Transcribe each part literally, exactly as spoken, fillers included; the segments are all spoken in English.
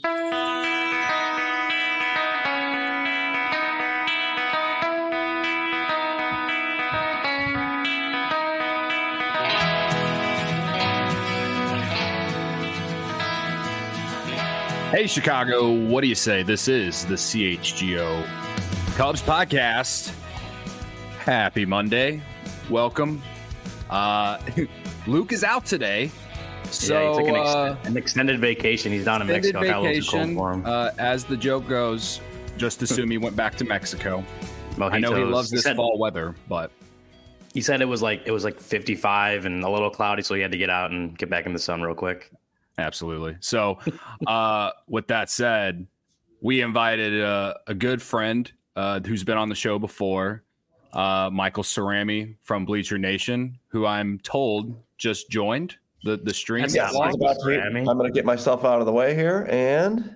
Hey, Chicago, what do you say? This is the C H G O Cubs podcast. Happy Monday. Welcome. Uh, Luke is out today. So, yeah, he took an, ex- uh, an extended vacation. He's down in Mexico. Vacation, for him. Uh, as the joke goes, just assume he went back to Mexico. Well, I know chose, he loves this he said, fall weather, but he said it was like it was like fifty-five and a little cloudy, so he had to get out and get back in the sun real quick. Absolutely. So, uh, with that said, we invited a, a good friend uh, who's been on the show before, uh, Michael Cerami from Bleacher Nation, who I'm told just joined the the stream. Yes, about to, I'm going to get myself out of the way here, and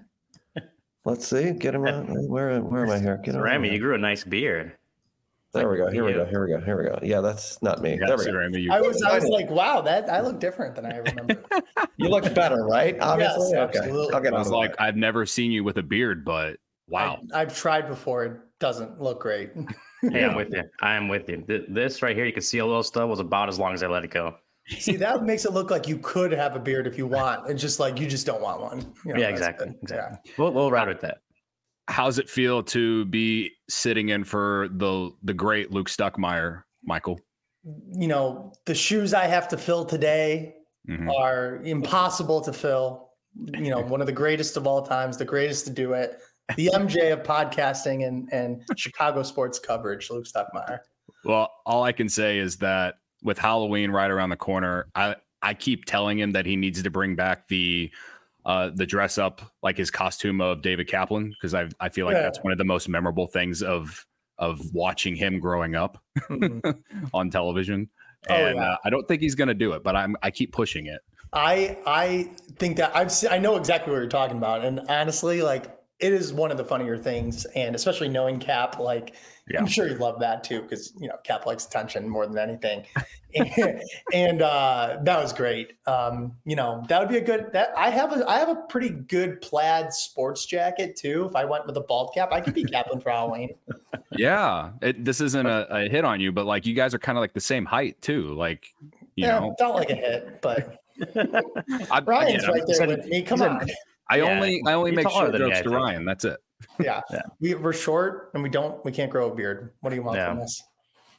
let's see, get him out. Where where am I here? Get him Cerami, you grew a nice beard. There we go. Here we go. Here we go. Here we go. Yeah, that's not me. There we go. Cerami, I was, I was like, wow, that I look different than I remember. You look better, right? Obviously. Yes, okay. absolutely. I'll get I was like, I've never seen you with a beard, but wow. I, I've tried before. It doesn't look great. Hey, I'm with you. I am with you. This right here, you can see a little stub was about as long as I let it go. See, that makes it look like you could have a beard if you want. It's just like you just don't want one. You know, yeah, exactly. Exactly. Yeah. We'll we'll ride with that. How's it feel to be sitting in for the the great Luke Stuckmeyer, Michael? You know, the shoes I have to fill today mm-hmm. are impossible to fill. You know, one of the greatest of all times, the greatest to do it, the M J of podcasting and, and Chicago sports coverage, Luke Stuckmeyer. Well, all I can say is that with Halloween right around the corner, I, I keep telling him that he needs to bring back the Uh, the dress up like his costume of David Kaplan, because I I feel like yeah. that's one of the most memorable things of of watching him growing up mm-hmm. on television. And oh, yeah. uh, I don't think he's going to do it, but I'm I keep pushing it. I I think that I've I know exactly what you're talking about, and honestly, like it is one of the funnier things, and especially knowing Cap, like yeah. I'm sure you love that too, because you know Cap likes attention more than anything. and, and uh, that was great. Um, you know, that would be a good. That I have a I have a pretty good plaid sports jacket too. If I went with a bald cap, I could be Kaplan for Halloween. Yeah, it, this isn't a, a hit on you, but like you guys are kind of like the same height too. Like, you yeah, know, felt like a hit, but I, Ryan's yeah, right there said, with me. Come on. Said, I yeah, only I only make short jokes to Ryan. That's it. Yeah. yeah, we we're short and we don't we can't grow a beard. What do you want yeah. from us?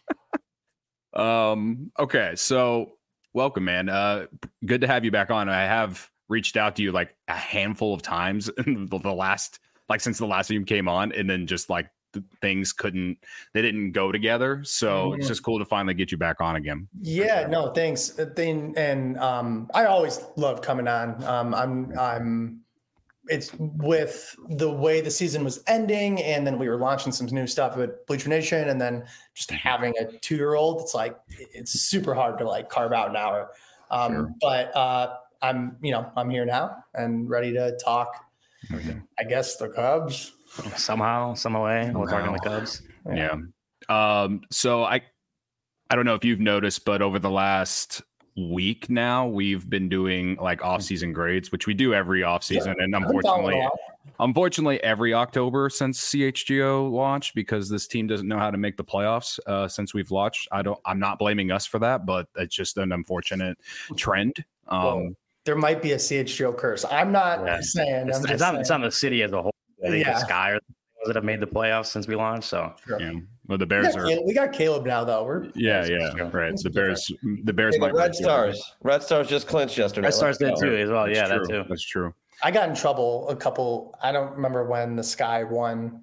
Um, okay, so welcome, man. Uh, good to have you back on. I have reached out to you like a handful of times in the, the last, like since the last time you came on, and then just like the things couldn't, they didn't go together. So mm-hmm. it's just cool to finally get you back on again. Yeah, sure. no, thanks. Thing and um, I always love coming on. Um, I'm I'm. It's with the way the season was ending, and then we were launching some new stuff with Bleacher Nation, and then just having a two-year-old, it's like it's super hard to like carve out an hour. Um, sure. But uh, I'm, you know, I'm here now and ready to talk. Okay. I guess the Cubs somehow, some way. We're talking the Cubs. Yeah. yeah. Um, so I, I don't know if you've noticed, but over the last week now we've been doing like off-season grades, which we do every off-season, yeah. and unfortunately unfortunately every October since C H G O launched, because this team doesn't know how to make the playoffs uh since we've launched. I don't I'm not blaming us for that, but it's just an unfortunate trend. um well, there might be a C H G O curse. I'm not yeah. saying it's, I'm it's, just not, saying. it's on the city as a whole. I think yeah. the Sky or that have made the playoffs since we launched. So sure. yeah. Well, the Bears we are. Caleb, we got Caleb now, though. We're yeah, yeah, right. The Bears, the Bears hey, might. Red Stars, Red Stars just clinched yesterday. Red Stars did too, as well. That's yeah, true. that too. That's true. I got in trouble a couple. I don't remember when the Sky won.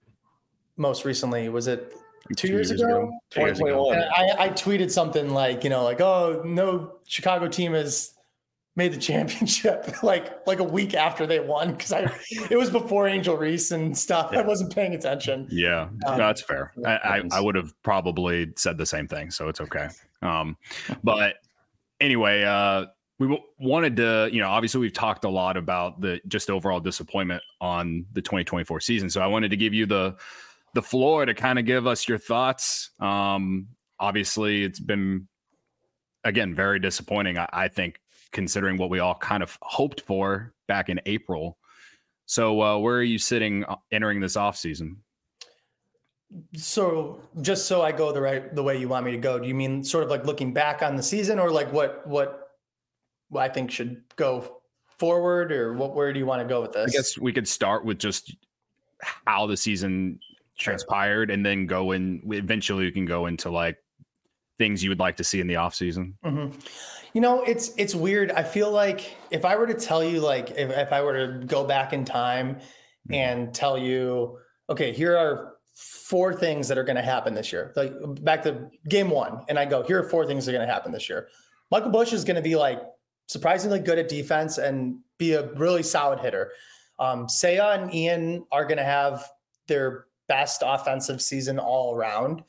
Most recently, was it two, two years, years ago? twenty twenty-one. I, I tweeted something like, you know, like, oh, no Chicago team has made the championship like like a week after they won, because I it was before Angel Reese and stuff. Yeah. I wasn't paying attention. Yeah, um, no, that's fair. I, I, I would have probably said the same thing, so it's okay. Um, but anyway, uh, we w- wanted to, you know, obviously we've talked a lot about the just overall disappointment on the twenty twenty-four season. So I wanted to give you the the floor to kind of give us your thoughts. Um, obviously, it's been again very disappointing. I, I think, considering what we all kind of hoped for back in April. So uh, where are you sitting entering this offseason? So just so I go the right the way you want me to go, do you mean sort of like looking back on the season, or like what what I think should go forward, or what where do you want to go with this? I guess we could start with just how the season transpired, and then go in. Eventually, we can go into like things you would like to see in the offseason. Mm-hmm. You know, it's it's weird. I feel like if I were to tell you, like if, if I were to go back in time mm-hmm. and tell you, okay, here are four things that are going to happen this year. Like back to game one, and I go, here are four things that are going to happen this year. Michael Busch is going to be like surprisingly good at defense and be a really solid hitter. Um, Seiya and Ian are going to have their best offensive season all around.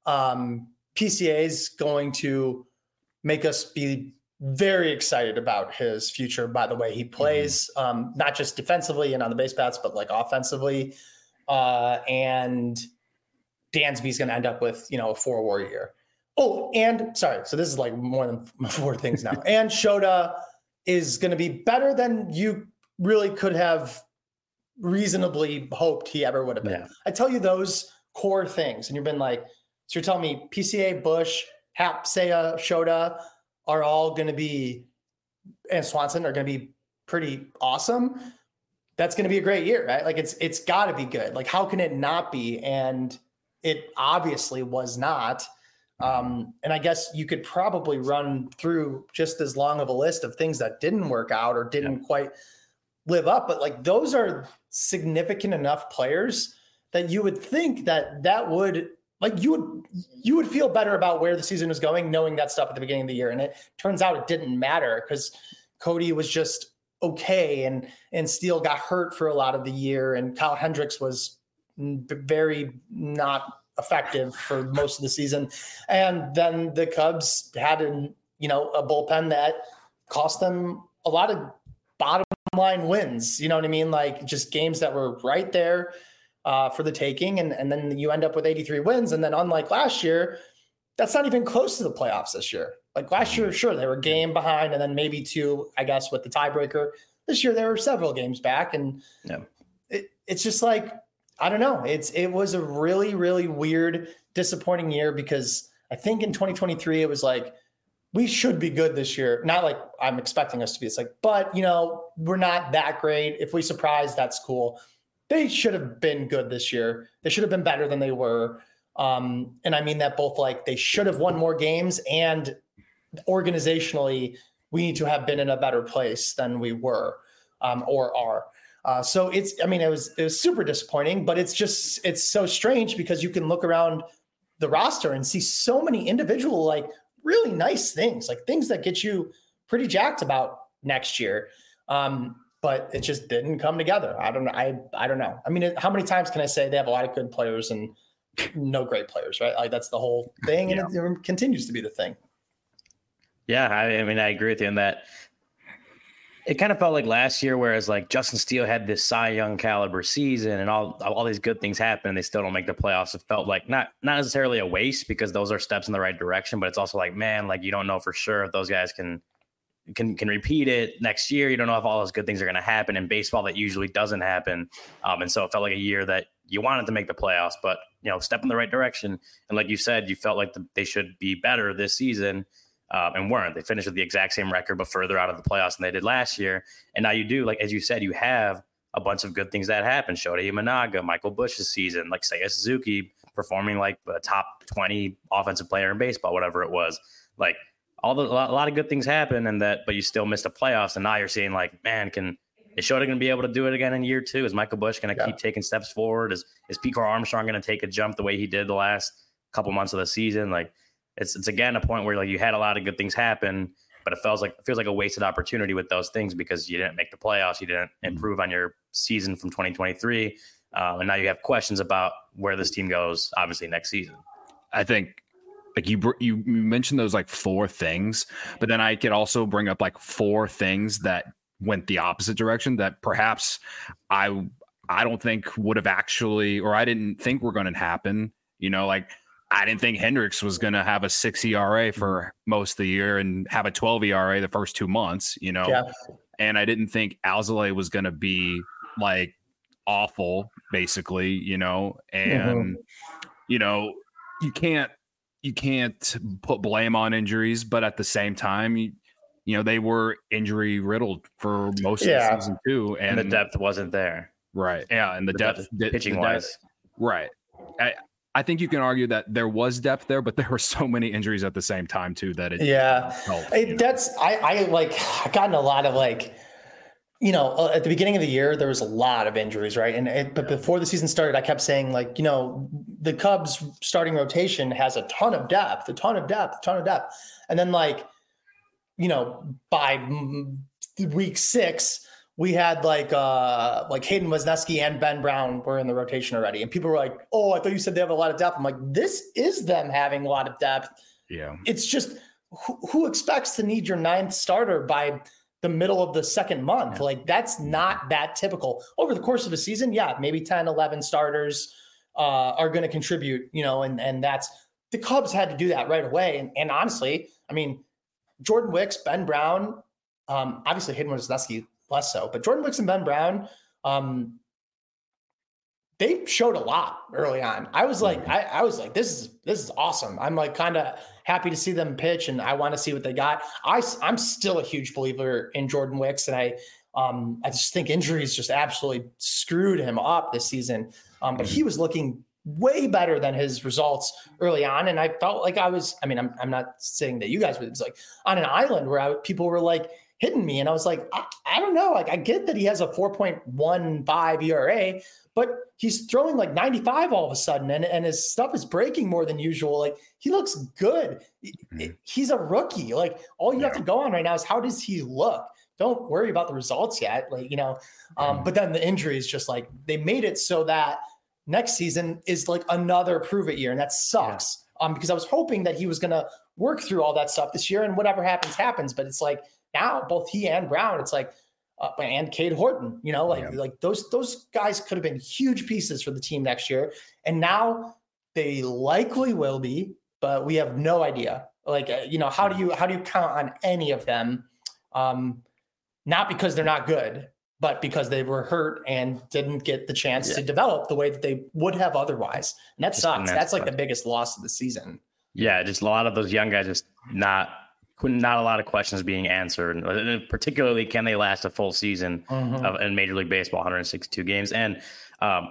Um, P C A is going to make us be very excited about his future by the way he plays, mm-hmm. um, not just defensively and on the base paths, but like offensively. Uh, and Dansby's going to end up with, you know, a four war year. Oh, and sorry. So this is like more than four things now. And Shota is going to be better than you really could have reasonably hoped he ever would have been. Yeah. I tell you those core things, and you've been like, so you're telling me P C A, Busch, Hap, Seiya, Shota are all going to be, and Swanson are going to be pretty awesome. That's going to be a great year, right? Like it's, it's gotta be good. Like how can it not be? And it obviously was not. Um, and I guess you could probably run through just as long of a list of things that didn't work out or didn't yeah. quite live up. But like, those are significant enough players that you would think that that would like, you would, you would feel better about where the season was going, knowing that stuff at the beginning of the year. And it turns out it didn't matter because Cody was just okay. And, and Steele got hurt for a lot of the year. And Kyle Hendricks was very not effective for most of the season. And then the Cubs had an, you know, a bullpen that cost them a lot of bottom line wins. You know what I mean? Like just games that were right there uh, for the taking. And, and then you end up with eighty-three wins. And then unlike last year, that's not even close to the playoffs this year. Like last year, sure, they were a game behind and then maybe two, I guess, with the tiebreaker. This year, there were several games back. And yeah. it, it's just like, I don't know. It's It was a really, really weird, disappointing year because I think in twenty twenty-three, it was like, we should be good this year. Not like I'm expecting us to be. It's like, but, you know, we're not that great. If we surprise, that's cool. They should have been good this year. They should have been better than they were. Um, and I mean that both like they should have won more games and organizationally, we need to have been in a better place than we were um, or are. Uh, so it's, I mean, it was, it was super disappointing, but it's just, it's so strange because you can look around the roster and see so many individual, like really nice things, like things that get you pretty jacked about next year. Um, but it just didn't come together. I don't know. I, I don't know. I mean, how many times can I say they have a lot of good players and no great players, right? Like that's the whole thing. And yeah. it, it continues to be the thing. Yeah. I, I mean, I agree with you on that. It kind of felt like last year, whereas like Justin Steele had this Cy Young caliber season and all, all these good things happen and they still don't make the playoffs. It felt like not, not necessarily a waste because those are steps in the right direction, but it's also like, man, like you don't know for sure if those guys can, can, can repeat it next year. You don't know if all those good things are going to happen in baseball. That usually doesn't happen. Um, and so it felt like a year that you wanted to make the playoffs, but you know, step in the right direction. And like you said, you felt like the, they should be better this season. Um, and weren't. They finished with the exact same record, but further out of the playoffs than they did last year. And now you do, like, as you said, you have a bunch of good things that happen. Shota Imanaga, Michael Busch's season, like Seiya Suzuki performing like a top twenty offensive player in baseball, whatever it was. Like all the, a lot of good things happen and that, but you still missed the playoffs. And now you're seeing like, man, can, is Shota going to be able to do it again in year two? Is Michael Busch going to yeah. keep taking steps forward? Is, is Pete Crow Armstrong going to take a jump the way he did the last couple months of the season? Like, It's it's again a point where like you had a lot of good things happen, but it feels like it feels like a wasted opportunity with those things because you didn't make the playoffs, you didn't improve on your season from twenty twenty-three, um, and now you have questions about where this team goes. Obviously, next season. I think like you you mentioned those like four things, but then I could also bring up like four things that went the opposite direction that perhaps I I don't think would have actually, or I didn't think were going to happen. You know, like. I didn't think Hendricks was going to have a six E R A for most of the year and have a twelve E R A the first two months, you know, yeah. and I didn't think Alzolay was going to be like awful, basically, you know, and, mm-hmm. you know, you can't, you can't put blame on injuries, but at the same time, you, you know, they were injury riddled for most yeah. of the season too. And, and the depth wasn't there. Right. Yeah. And the, the depth, depth pitching the wise. Depth, right. I, I think you can argue that there was depth there, but there were so many injuries at the same time too that it yeah helped, it, that's I, I like I've gotten a lot of like, you know, at the beginning of the year there was a lot of injuries, right? And it, but before the season started, I kept saying like, you know, the Cubs starting rotation has a ton of depth, a ton of depth, a ton of depth, and then like, you know, by week six. We had like uh, like Hayden Wesneski and Ben Brown were in the rotation already. And people were like, oh, I thought you said they have a lot of depth. I'm like, this is them having a lot of depth. Yeah. It's just who, who expects to need your ninth starter by the middle of the second month? Yeah. Like that's not that typical. Over the course of a season, yeah, maybe ten, eleven starters uh, are going to contribute, you know, and, and that's – the Cubs had to do that right away. And, and honestly, I mean, Jordan Wicks, Ben Brown, um, obviously Hayden Wesneski – less so, but Jordan Wicks and Ben Brown, um, they showed a lot early on. I was like, I, I was like, this is, this is awesome. I'm like kind of happy to see them pitch and I want to see what they got. I, I'm still a huge believer in Jordan Wicks. And I, um, I just think injuries just absolutely screwed him up this season. Um, but he was looking way better than his results early on. And I felt like I was, I mean, I'm, I'm not saying that you guys, but it's like on an island where I, people were like, hitting me. And I was like, I, I don't know. Like I get that he has a four point one five E R A, but he's throwing like ninety-five all of a sudden. And, and his stuff is breaking more than usual. Like he looks good. Mm-hmm. He's a rookie. Like all you yeah. have to go on right now is how does he look? Don't worry about the results yet. Like, you know, um, mm-hmm. but then the injuries just like they made it so that next season is like another prove it year. And that sucks yeah. um, because I was hoping that he was going to work through all that stuff this year and whatever happens, happens. But it's like, now both he and Brown, it's like, uh, and Cade Horton, you know, like, yeah. like those, those guys could have been huge pieces for the team next year. And now they likely will be, but we have no idea. Like, uh, you know, how do you, how do you count on any of them? Um, not because they're not good, but because they were hurt and didn't get the chance yeah. to develop the way that they would have otherwise. And that sucks. And that's, that's like the biggest loss of the season. Yeah. Just a lot of those young guys just not, not a lot of questions being answered, particularly can they last a full season mm-hmm. of in Major League Baseball, one hundred sixty-two games. And um,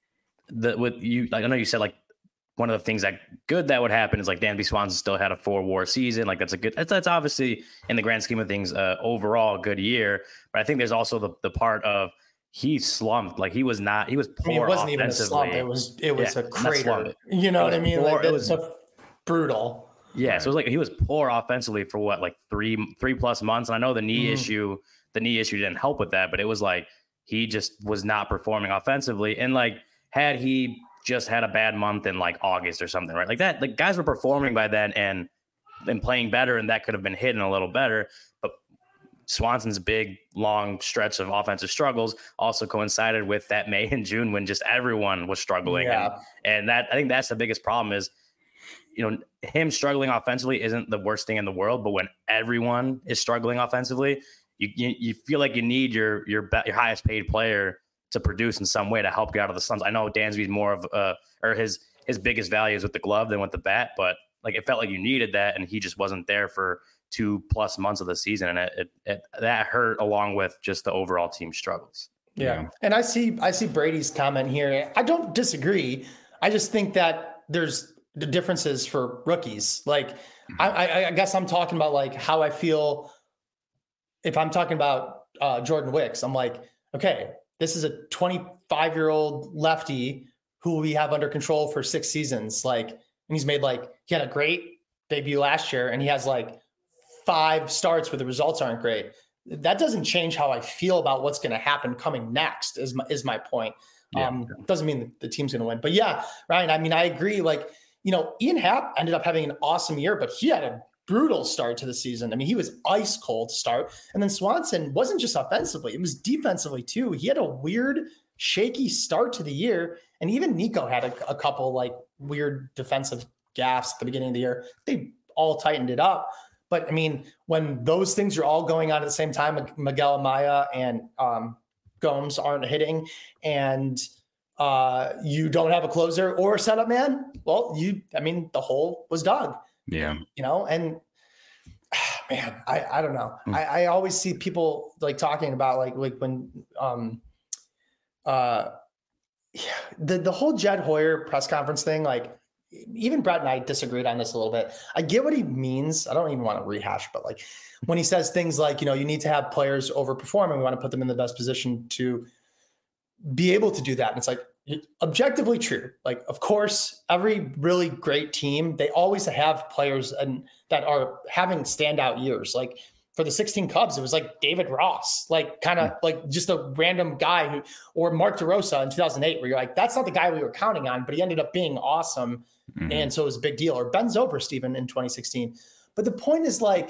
the, with you, like, I know you said like one of the things that good that would happen is like Dansby Swanson still had a four war season. Like that's a good, that's, that's obviously in the grand scheme of things, uh, overall a good year. But I think there's also the, the part of he slumped. Like he was not, he was poor. I mean, it wasn't even a slump. It was, it was yeah, a crater. You know what I mean? Poor, like it was a, brutal. Yeah, right. So it was like he was poor offensively for what, like three three plus months. And I know the knee mm. issue, the knee issue didn't help with that, but it was like he just was not performing offensively. And like had he just had a bad month in like August or something, right? Like that, like guys were performing by then and and playing better, and that could have been hidden a little better. But Swanson's big long stretch of offensive struggles also coincided with that May and June when just everyone was struggling. Yeah. And, and that I think that's the biggest problem is, you know, him struggling offensively isn't the worst thing in the world, but when everyone is struggling offensively, you you, you feel like you need your your be- your highest paid player to produce in some way to help you out of the slumps. I know Dansby's more of uh or his his biggest value is with the glove than with the bat, but like it felt like you needed that, and he just wasn't there for two plus months of the season, and it, it, it that hurt along with just the overall team struggles. Yeah. yeah, and I see I see Brady's comment here. I don't disagree. I just think that there's the differences for rookies. Like, I, I, I guess I'm talking about like how I feel if I'm talking about uh, Jordan Wicks. I'm like, okay, this is a twenty-five year old lefty who we have under control for six seasons. Like, and he's made like, he had a great debut last year and he has like five starts where the results aren't great. That doesn't change how I feel about what's going to happen coming next is my, is my point. Yeah. Um, doesn't mean the team's going to win, but yeah, Ryan, I mean, I agree. Like, you know, Ian Happ ended up having an awesome year, but he had a brutal start to the season. I mean, he was ice cold to start. And then Swanson wasn't just offensively, it was defensively too. He had a weird, shaky start to the year. And even Nico had a, a couple like weird defensive gaffes at the beginning of the year. They all tightened it up. But I mean, when those things are all going on at the same time, Miguel Amaya and um, Gomes aren't hitting and uh, you don't have a closer or a setup man, well, you, I mean, the hole was dug. Yeah. You know, and man, I, I don't know. Mm. I, I always see people like talking about like, like when, um, uh, yeah, the, the whole Jed Hoyer press conference thing, like even Brett and I disagreed on this a little bit. I get what he means. I don't even want to rehash, but like when he says things like, you know, you need to have players overperform and we want to put them in the best position to be able to do that. And it's like objectively true. Like, of course, every really great team, they always have players and that are having standout years. Like for the sixteen Cubs, it was like David Ross, like kind of like just a random guy who, or Mark DeRosa in two thousand eight, where you're like, that's not the guy we were counting on, but he ended up being awesome. Mm-hmm. And so it was a big deal. Or Ben Zobrist even in twenty sixteen. But the point is like,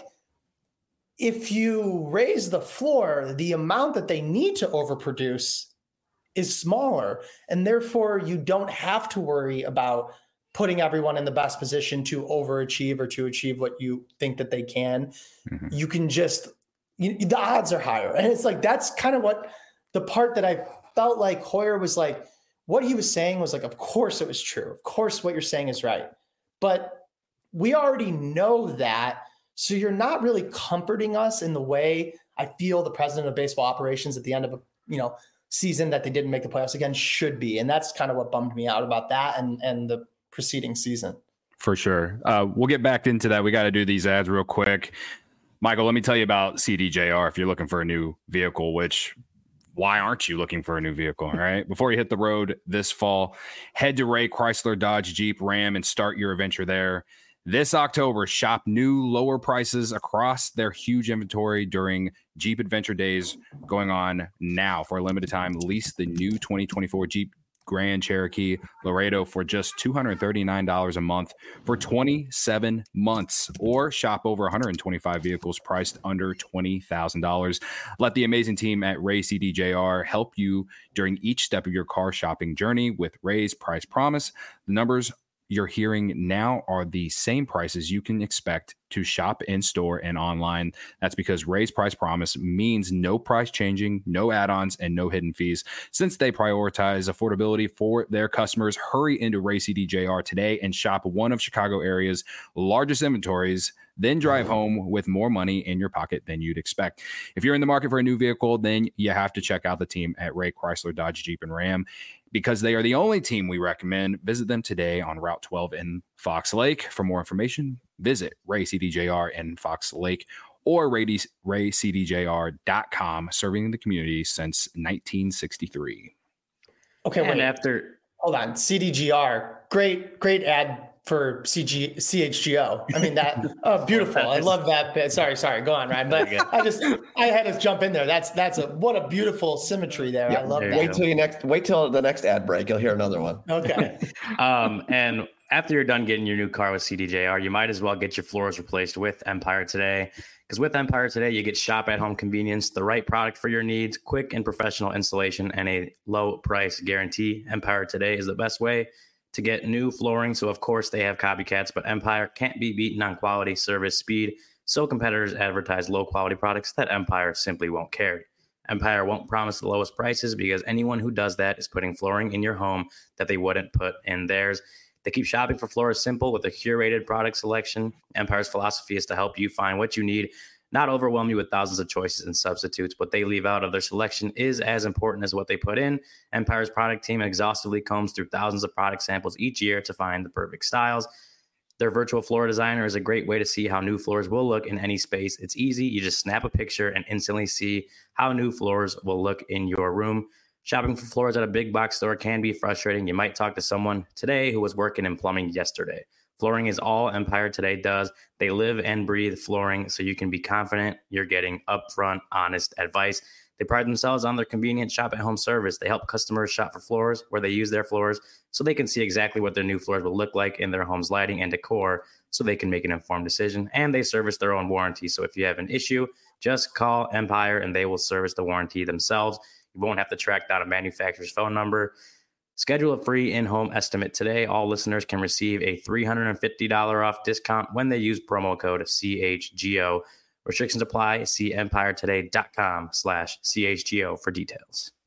if you raise the floor, the amount that they need to overproduce is smaller. And therefore you don't have to worry about putting everyone in the best position to overachieve or to achieve what you think that they can. Mm-hmm. You can just, you, the odds are higher. And it's like, that's kind of what the part that I felt like Hoyer was like, what he was saying was like, of course it was true. Of course what you're saying is right. But we already know that. So you're not really comforting us in the way I feel the president of baseball operations at the end of a, you know, season that they didn't make the playoffs again should be. And that's kind of what bummed me out about that and, and the preceding season. For sure. Uh, we'll get back into that. We got to do these ads real quick. Michael, let me tell you about C D J R if you're looking for a new vehicle, which why aren't you looking for a new vehicle, right? Before you hit the road this fall, head to Ray Chrysler Dodge Jeep Ram and start your adventure there. This October, shop new lower prices across their huge inventory during Jeep Adventure Days going on now. For a limited time, lease the new twenty twenty-four Jeep Grand Cherokee Laredo for just two hundred thirty-nine dollars a month for twenty-seven months, or shop over one hundred twenty-five vehicles priced under twenty thousand dollars. Let the amazing team at Ray C D J R help you during each step of your car shopping journey with Ray's Price Promise. The numbers you're hearing now are the same prices you can expect to shop in store and online. That's because Ray's Price Promise means no price changing, no add-ons, and no hidden fees. Since they prioritize affordability for their customers, hurry into Ray C D J R today and shop one of Chicago area's largest inventories, then drive home with more money in your pocket than you'd expect. If you're in the market for a new vehicle, then you have to check out the team at Ray Chrysler Dodge Jeep and Ram, because they are the only team we recommend. Visit them today on Route twelve in Fox Lake. For more information, visit Ray C D J R in Fox Lake or ray c d j r dot com, serving the community since nineteen sixty-three. Okay, and wait. after hold on, C D G R, great, great ad for C G, C H G O. I mean, that, oh, beautiful. I love that bit. Sorry, sorry. Go on, Ryan. But I just, I had to jump in there. That's, that's a, what a beautiful symmetry there. Yeah, I love that. Wait till you next, wait till the next ad break. You'll hear another one. Okay. um, and after you're done getting your new car with C D J R, you might as well get your floors replaced with Empire Today. Because with Empire Today, you get shop at home convenience, the right product for your needs, quick and professional installation, and a low price guarantee. Empire Today is the best way to get new flooring. So of course they have copycats, but Empire can't be beaten on quality, service, speed. So competitors advertise low quality products that Empire simply won't carry. Empire won't promise the lowest prices because anyone who does that is putting flooring in your home that they wouldn't put in theirs. They keep shopping for floors simple with a curated product selection. Empire's philosophy is to help you find what you need, not overwhelm you with thousands of choices and substitutes. What they leave out of their selection is as important as what they put in. Empire's product team exhaustively combs through thousands of product samples each year to find the perfect styles. Their virtual floor designer is a great way to see how new floors will look in any space. It's easy. You just snap a picture and instantly see how new floors will look in your room. Shopping for floors at a big box store can be frustrating. You might talk to someone today who was working in plumbing yesterday. Flooring is all Empire Today does. They live and breathe flooring, so you can be confident you're getting upfront, honest advice. They pride themselves on their convenient shop-at-home service. They help customers shop for floors where they use their floors so they can see exactly what their new floors will look like in their home's lighting and decor so they can make an informed decision. And they service their own warranty. So if you have an issue, just call Empire and they will service the warranty themselves. You won't have to track down a manufacturer's phone number. Schedule a free in-home estimate today. All listeners can receive a three hundred fifty dollars off discount when they use promo code C H G O. Restrictions apply. See empiretoday.com slash CHGO for details.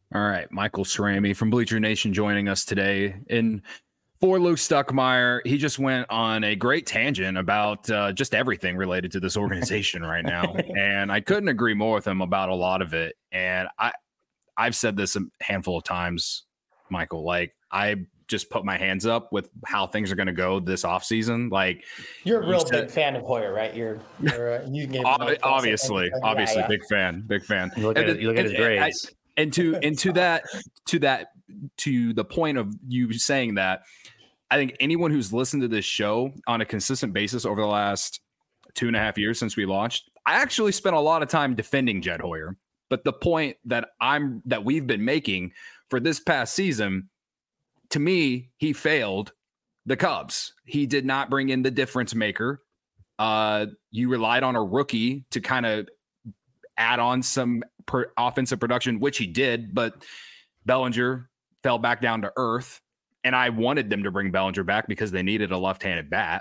All right, Michael Cerami from Bleacher Nation joining us today. And for Luke Stuckmeyer, he just went on a great tangent about uh, just everything related to this organization right now. And I couldn't agree more with him about a lot of it. And I, I've said this a handful of times, Michael, like I just put my hands up with how things are going to go this offseason. Like you're a real said, big fan of Hoyer, right? You're, you're uh, you gave ob- obviously, obviously yeah, yeah. big fan, big fan. You look at, and, it, you look at his and, grades. I, and to, and to that, to that, to the point of you saying that, I think anyone who's listened to this show on a consistent basis over the last two and a half years since we launched, I actually spent a lot of time defending Jed Hoyer. But the point that I'm, that we've been making for this past season, to me, he failed the Cubs. He did not bring in the difference maker. Uh, you relied on a rookie to kind of add on some per offensive production, which he did, but Bellinger fell back down to earth. And I wanted them to bring Bellinger back because they needed a left-handed bat.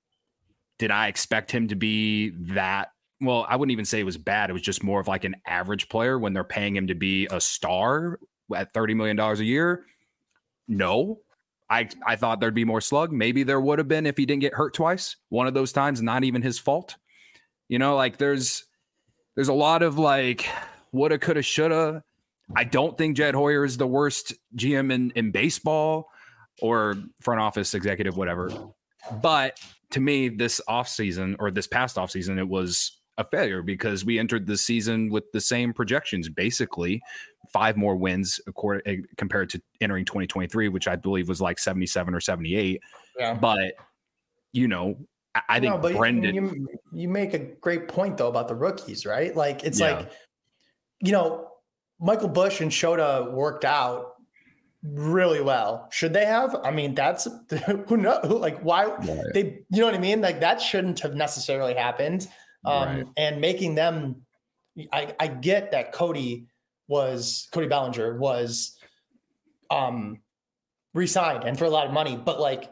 Did I expect him to be that? Well, I wouldn't even say it was bad. It was just more of like an average player when they're paying him to be a star at thirty million dollars a year. No, I, I thought there'd be more slug. Maybe there would have been if he didn't get hurt twice. One of those times, not even his fault. You know, like there's, there's a lot of like woulda, coulda, shoulda. I don't think Jed Hoyer is the worst G M in, in baseball or front office executive, whatever. But to me, this offseason or this past offseason, it was a failure because we entered the season with the same projections, basically five more wins according, compared to entering twenty twenty-three, which I believe was like seventy-seven or seventy-eight. Yeah. But, you know, I, I think no, but Brendan. You, you make a great point, though, about the rookies, right? Like, it's yeah. like, you know, Michael Busch and Shota worked out really well. Should they have? I mean, that's who knows, like why right. they, you know what I mean? Like that shouldn't have necessarily happened. Um, right. And making them, I, I get that Cody was, Cody Bellinger was um, re-signed and for a lot of money, but like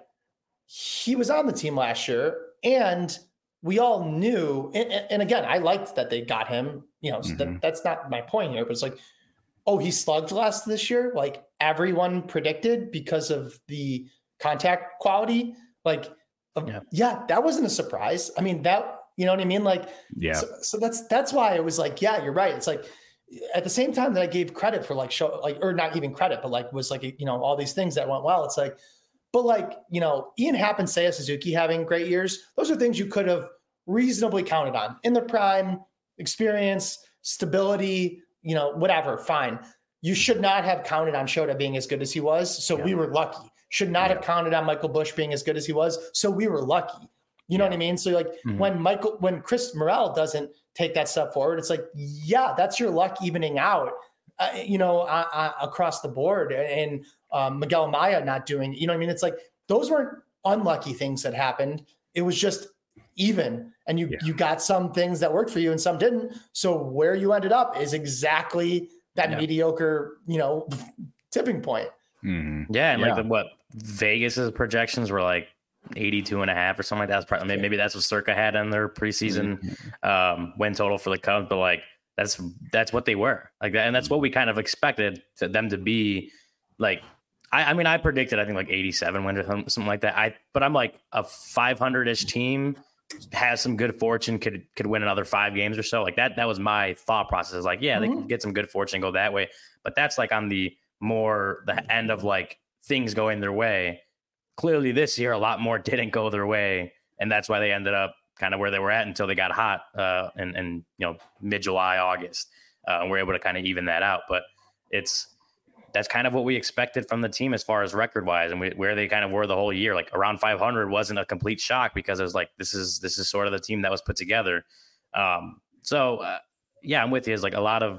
he was on the team last year and we all knew, and, and again, I liked that they got him, you know, so mm-hmm. that, that's not my point here, but it's like, oh, he slugged less this year, like everyone predicted because of the contact quality. Like, yeah. yeah, that wasn't a surprise. I mean, that, you know what I mean? Like, yeah. So, so that's, that's why it was like, yeah, you're right. It's like, at the same time that I gave credit for like show, like, or not even credit, but like was like, you know, all these things that went well. It's like, but like, you know, Ian Happ and Seiya Suzuki having great years. Those are things you could have reasonably counted on in their prime, experience, stability, you know, whatever, fine. You should not have counted on Shota being as good as he was. So yeah. we were lucky. Should not yeah. have counted on Michael Busch being as good as he was. So we were lucky. You know yeah. what I mean? So like mm-hmm. when Michael, when Chris Morel doesn't take that step forward, it's like, yeah, that's your luck evening out, uh, you know, uh, uh, across the board. And um, Miguel Amaya not doing, you know what I mean? It's like, those weren't unlucky things that happened. It was just even. And you, yeah. you got some things that worked for you and some didn't. So where you ended up is exactly that yeah. mediocre, you know, tipping point. Mm-hmm. Yeah. And yeah. like the, what Vegas's projections were like eighty-two and a half or something like that. That's probably, maybe that's what Circa had in their preseason mm-hmm. um, win total for the Cubs. But like, that's, that's what they were like that. And that's what we kind of expected to them to be like. I, I mean, I predicted, I think like eighty-seven wins or something like that. I, but I'm like a five hundred ish team has some good fortune, could could win another five games or so. Like that, that was my thought process. Like, yeah, mm-hmm. they could get some good fortune and go that way. But that's like on the more the end of like things going their way. Clearly this year, a lot more didn't go their way. And that's why they ended up kind of where they were at until they got hot uh, and, and, you know, mid-July, August. Uh, and we're able to kind of even that out. But it's, that's kind of what we expected from the team as far as record wise and we, where they kind of were the whole year. Like around five hundred wasn't a complete shock because it was like, this is, this is sort of the team that was put together. Um, so uh, yeah, I'm with you. It's like a lot of,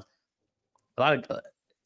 a lot of, uh,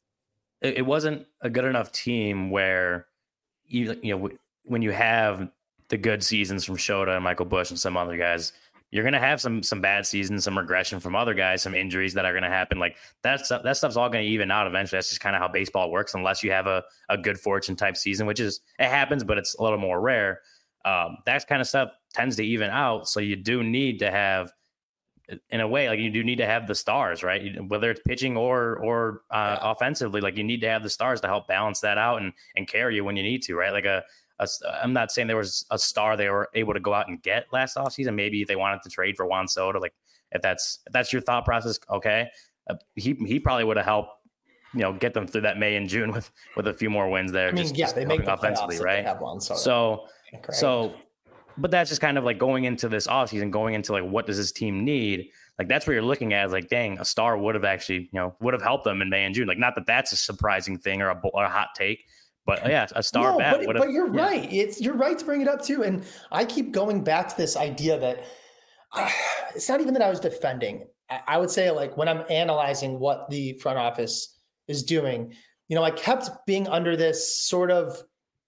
it, it wasn't a good enough team where you, you know, when you have the good seasons from Shota and Michael Busch and some other guys, you're going to have some, some bad seasons, some regression from other guys, some injuries that are going to happen. Like that stuff, that stuff's all going to even out eventually. That's just kind of how baseball works, unless you have a, a good fortune type season, which is, it happens, but it's a little more rare. Um, that kind of stuff tends to even out. So you do need to have in a way, like you do need to have the stars, right? Whether it's pitching or or uh, yeah. offensively, like you need to have the stars to help balance that out and and carry you when you need to, right? Like a, a I'm not saying there was a star they were able to go out and get last offseason. Maybe if they wanted to trade for Juan Soto, like if that's if that's your thought process, okay. Uh, he he probably would have helped, you know, get them through that May and June with with a few more wins there. I mean, just, yeah, just they make the offensively, right? Have one, so so so. But that's just kind of like going into this offseason, going into like, what does this team need? Like, that's what you're looking at is like, dang, a star would have actually, you know, would have helped them in May and June. Like, not that that's a surprising thing or a, or a hot take, but yeah, a star no, bat but, would have. But you're yeah. right. It's you're right to bring it up too. And I keep going back to this idea that uh, it's not even that I was defending. I, I would say like when I'm analyzing what the front office is doing, you know, I kept being under this sort of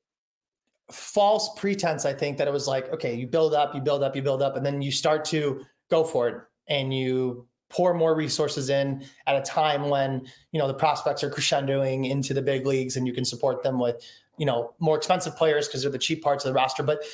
false pretense, I think, that it was like, okay, you build up, you build up, you build up, and then you start to go for it and you pour more resources in at a time when, you know, the prospects are crescendoing into the big leagues and you can support them with, you know, more expensive players because they're the cheap parts of the roster. But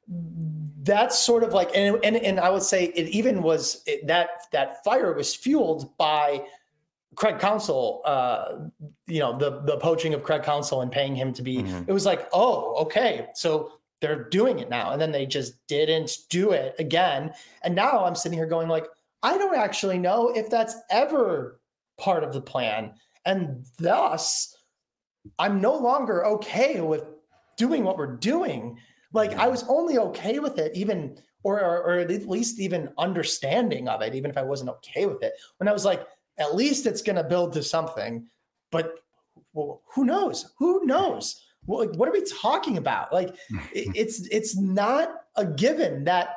that's sort of like, and and, and I would say it even was it, that that fire was fueled by Craig Counsell, uh, you know, the the poaching of Craig Counsell and paying him to be, mm-hmm. It was like, oh, okay, so they're doing it now. And then they just didn't do it again. And now I'm sitting here going like, I don't actually know if that's ever part of the plan. And thus, I'm no longer okay with doing what we're doing. Like, I was only okay with it even, or, or, or at least even understanding of it, even if I wasn't okay with it, when I was like, at least it's going to build to something, but well, who knows? Who knows? Well, like, what are we talking about? Like, it, it's it's not a given that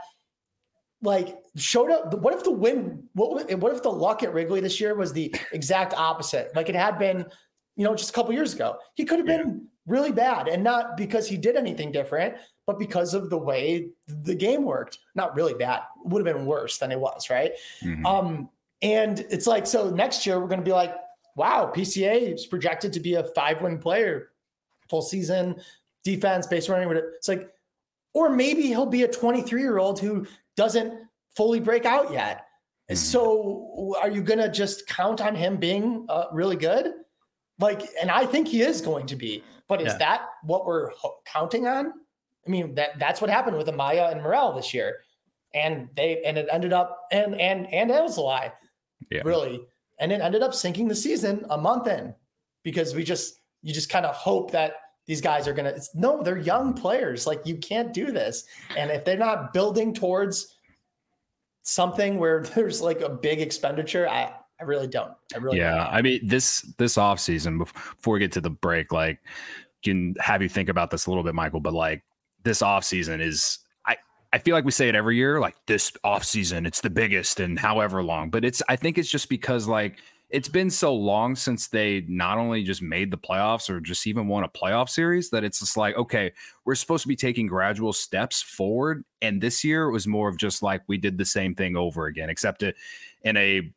like showed up. What if the win? What what if the luck at Wrigley this year was the exact opposite? Like it had been, you know, just a couple years ago. He could have been yeah. really bad, and not because he did anything different, but because of the way the game worked. Not really bad. It would have been worse than it was, right? Mm-hmm. Um. And it's like, so next year we're going to be like, wow, P C A is projected to be a five-win player, full season, defense, base running. It's like, or maybe he'll be a twenty-three-year-old who doesn't fully break out yet. Mm-hmm. So are you going to just count on him being uh, really good? Like, and I think he is going to be, but is yeah. that what we're ho- counting on? I mean, that that's what happened with Amaya and Morel this year. And they, and it ended up, and, and, and Alzolay. Yeah. Really. And it ended up sinking the season a month in because we just, you just kind of hope that these guys are going to, no, they're young players. Like you can't do this. And if they're not building towards something where there's like a big expenditure, I, I really don't. I really yeah. don't. I mean, this, this off season, before we get to the break, like can have you think about this a little bit, Michael, but like this off season is, I feel like we say it every year, like this offseason, it's the biggest in however long. But it's I think it's just because like it's been so long since they not only just made the playoffs or just even won a playoff series that it's just like, okay, we're supposed to be taking gradual steps forward. And this year it was more of just like we did the same thing over again, except it in a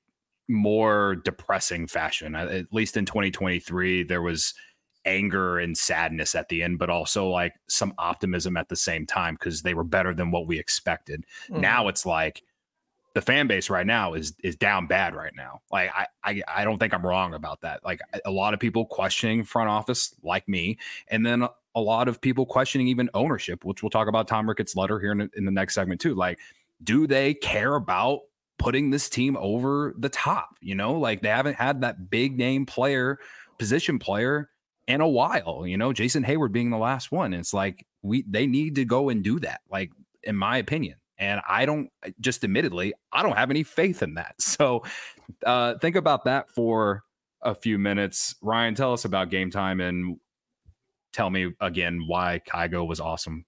more depressing fashion. At least in twenty twenty-three, there was anger and sadness at the end, but also like some optimism at the same time because they were better than what we expected. Mm. Now it's like the fan base right now is is down bad right now. Like I, I I don't think I'm wrong about that. Like a lot of people questioning front office like me, and then a lot of people questioning even ownership, which we'll talk about Tom Ricketts' letter here in, in the next segment too. Like, do they care about putting this team over the top? You know, like they haven't had that big name player, position player in a while, you know, Jason Hayward being the last one. It's like we they need to go and do that, like in my opinion. And I don't just admittedly, I don't have any faith in that. So uh, think about that for a few minutes. Ryan, tell us about Game Time and tell me again why Kygo was awesome.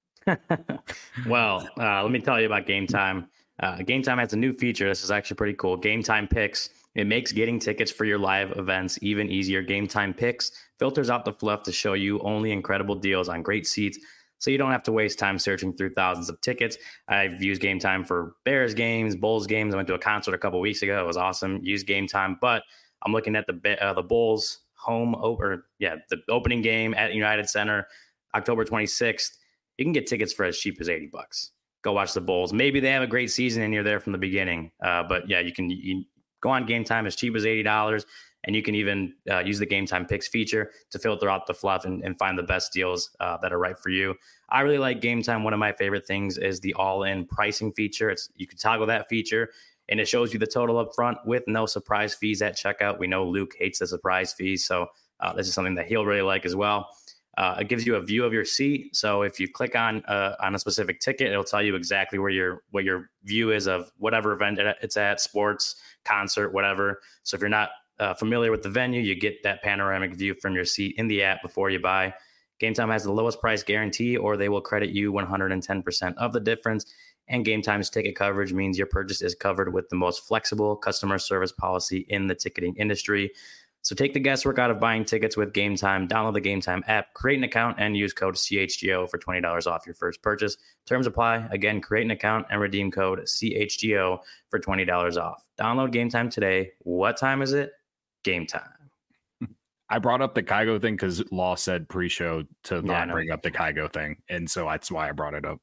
Well, uh, let me tell you about Game Time. Uh, Game Time has a new feature. This is actually pretty cool. Game Time Picks. It makes getting tickets for your live events even easier. Game Time Picks filters out the fluff to show you only incredible deals on great seats, so you don't have to waste time searching through thousands of tickets. I've used Game Time for Bears games, Bulls games. I went to a concert a couple weeks ago. It was awesome. Used Game Time, but I'm looking at the uh, the Bulls home or yeah the opening game at United Center, October twenty-sixth. You can get tickets for as cheap as eighty bucks. go watch the Bulls. Maybe they have a great season and you're there from the beginning. Uh, but yeah, you can you go on Game Time as cheap as eighty dollars. And you can even uh, use the Game Time Picks feature to filter out the fluff and, and find the best deals uh, that are right for you. I really like Game Time. One of my favorite things is the all-in pricing feature. It's you can toggle that feature, and it shows you the total up front with no surprise fees at checkout. We know Luke hates the surprise fees, so uh, this is something that he'll really like as well. Uh, it gives you a view of your seat. So if you click on uh, on a specific ticket, it'll tell you exactly where your what your view is of whatever event it's at, sports, concert, whatever. So if you're not Uh, familiar with the venue, you get that panoramic view from your seat in the app before you buy. Game Time has the lowest price guarantee, or they will credit you one hundred ten percent of the difference. And Game Time's ticket coverage means your purchase is covered with the most flexible customer service policy in the ticketing industry. So take the guesswork out of buying tickets with Game Time. Download the Game Time app, create an account, and use code C H G O for twenty dollars off your first purchase. Terms apply. Again, create an account and redeem code C H G O for twenty dollars off. Download Game Time today. What time is it? Game Time. I brought up the Kygo thing because Law said pre-show to not yeah, bring up the Kygo thing. And so that's why I brought it up.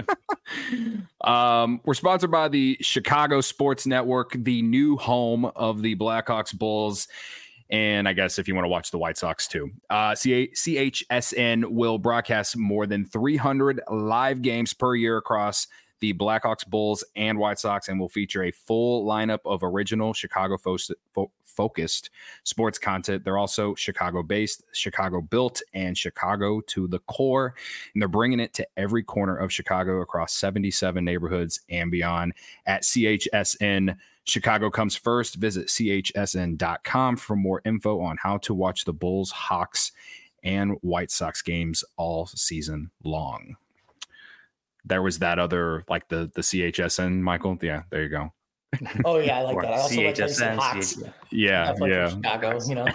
um, we're sponsored by the Chicago Sports Network, the new home of the Blackhawks, Bulls, and I guess if you want to watch the White Sox too. Uh, C H S N will broadcast more than three hundred live games per year across the Blackhawks, Bulls, and White Sox, and will feature a full lineup of original Chicago fo- fo- focused sports content. They're also Chicago-based, Chicago-built, and Chicago to the core, and they're bringing it to every corner of Chicago across seventy-seven neighborhoods and beyond. At C H S N, Chicago comes first. Visit C H S N dot com for more info on how to watch the Bulls, Hawks, and White Sox games all season long. There was that other, like the the C H S N, Michael. Yeah, there you go. Oh yeah, I like that. I also C H S N, like Hawks. Yeah, yeah. Chicago, you know,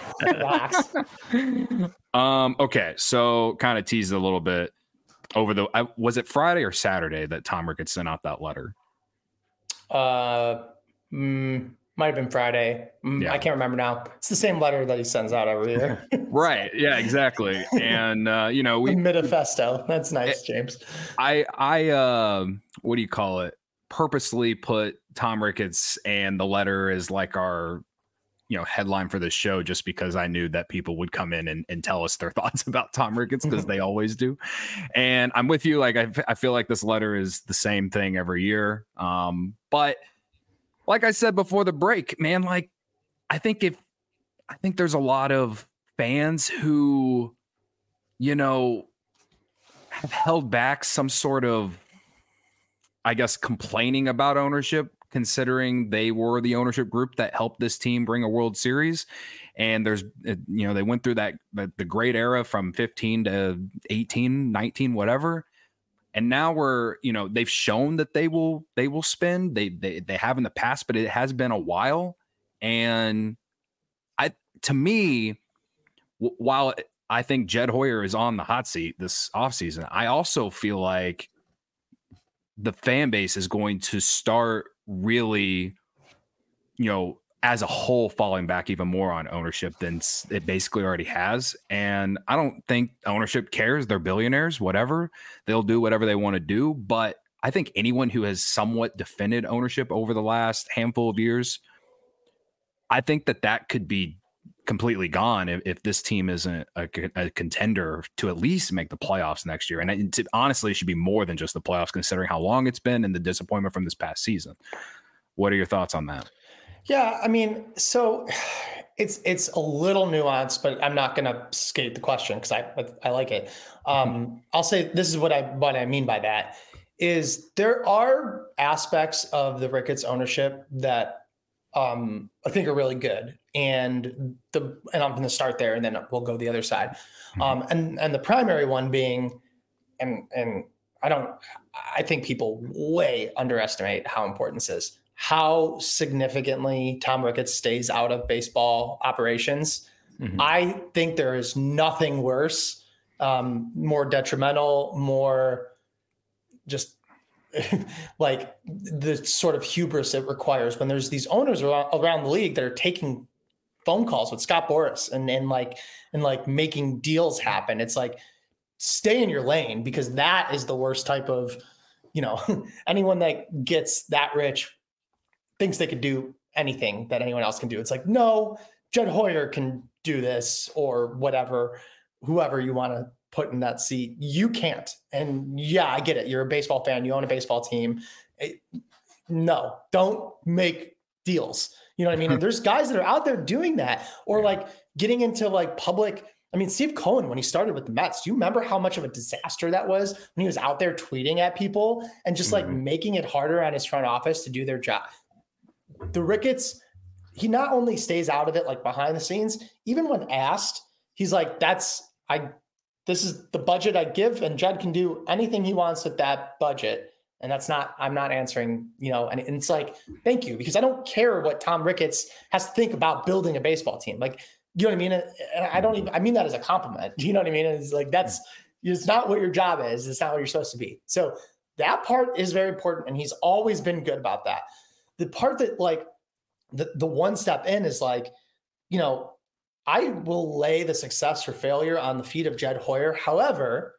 Hawks. Um. Okay, so kind of teased a little bit over the. I, was it Friday or Saturday that Tom Ricketts sent out that letter? Uh, mm, might have been Friday. Mm, yeah. I can't remember now. It's the same letter that he sends out every year. Right. Yeah, exactly. And, uh, you know, we manifesto. That's nice, James. I, I, uh, what do you call it? Purposely put Tom Ricketts and the letter as like our, you know, headline for the show, just because I knew that people would come in and, and tell us their thoughts about Tom Ricketts, because they always do. And I'm with you. Like, I, I feel like this letter is the same thing every year. Um, but like I said before the break, man, like, I think if, I think there's a lot of fans who, you know, have held back some sort of, I guess, complaining about ownership, considering they were the ownership group that helped this team bring a World Series. And there's, you know, they went through that, the, the great era from fifteen to eighteen, nineteen, whatever. And now we're, you know, they've shown that they will, they will spend, they, they, they have in the past, but it has been a while. And I, to me, w- while I think Jed Hoyer is on the hot seat this offseason, I also feel like the fan base is going to start really, you know, as a whole, falling back even more on ownership than it basically already has. And I don't think ownership cares. They're billionaires, whatever. They'll do whatever they want to do. But I think anyone who has somewhat defended ownership over the last handful of years, I think that that could be completely gone if, if this team isn't a, a contender to at least make the playoffs next year. And it, it honestly should be more than just the playoffs, considering how long it's been and the disappointment from this past season. What are your thoughts on that? Yeah, I mean, so it's it's a little nuanced, but I'm not going to skate the question because I I like it. Um, I'll say this is what I what I mean by that is there are aspects of the Ricketts ownership that um, I think are really good, and the and I'm going to start there, and then we'll go the other side. Mm-hmm. Um, and and the primary one being, and and I don't, I think people way underestimate how important this is. How significantly Tom Ricketts stays out of baseball operations. Mm-hmm. I think there is nothing worse, um, more detrimental, more just like the sort of hubris it requires when there's these owners around, around the league that are taking phone calls with Scott Boras and, and like, and like making deals happen. It's like, stay in your lane, because that is the worst type of, you know, anyone that gets that rich thinks they could do anything that anyone else can do. It's like, no, Jed Hoyer can do this or whatever, whoever you want to put in that seat. You can't. And yeah, I get it. You're a baseball fan. You own a baseball team. It, no, don't make deals. You know what I mean? And there's guys that are out there doing that, or like getting into like public. I mean, Steve Cohen, when he started with the Mets, do you remember how much of a disaster that was when he was out there tweeting at people and just like mm-hmm. making it harder on his front office to do their job? The Ricketts, he not only stays out of it like behind the scenes, even when asked, he's like, that's, I, this is the budget I give, and Jed can do anything he wants with that budget. And that's not, I'm not answering, you know, and, and it's like, thank you, because I don't care what Tom Ricketts has to think about building a baseball team. Like, you know what I mean? And I don't even, I mean that as a compliment. You know what I mean? It's like, that's, it's not what your job is. It's not what you're supposed to be. So that part is very important. And he's always been good about that. The part that like the, the one step in is like, you know, I will lay the success or failure on the feet of Jed Hoyer. However,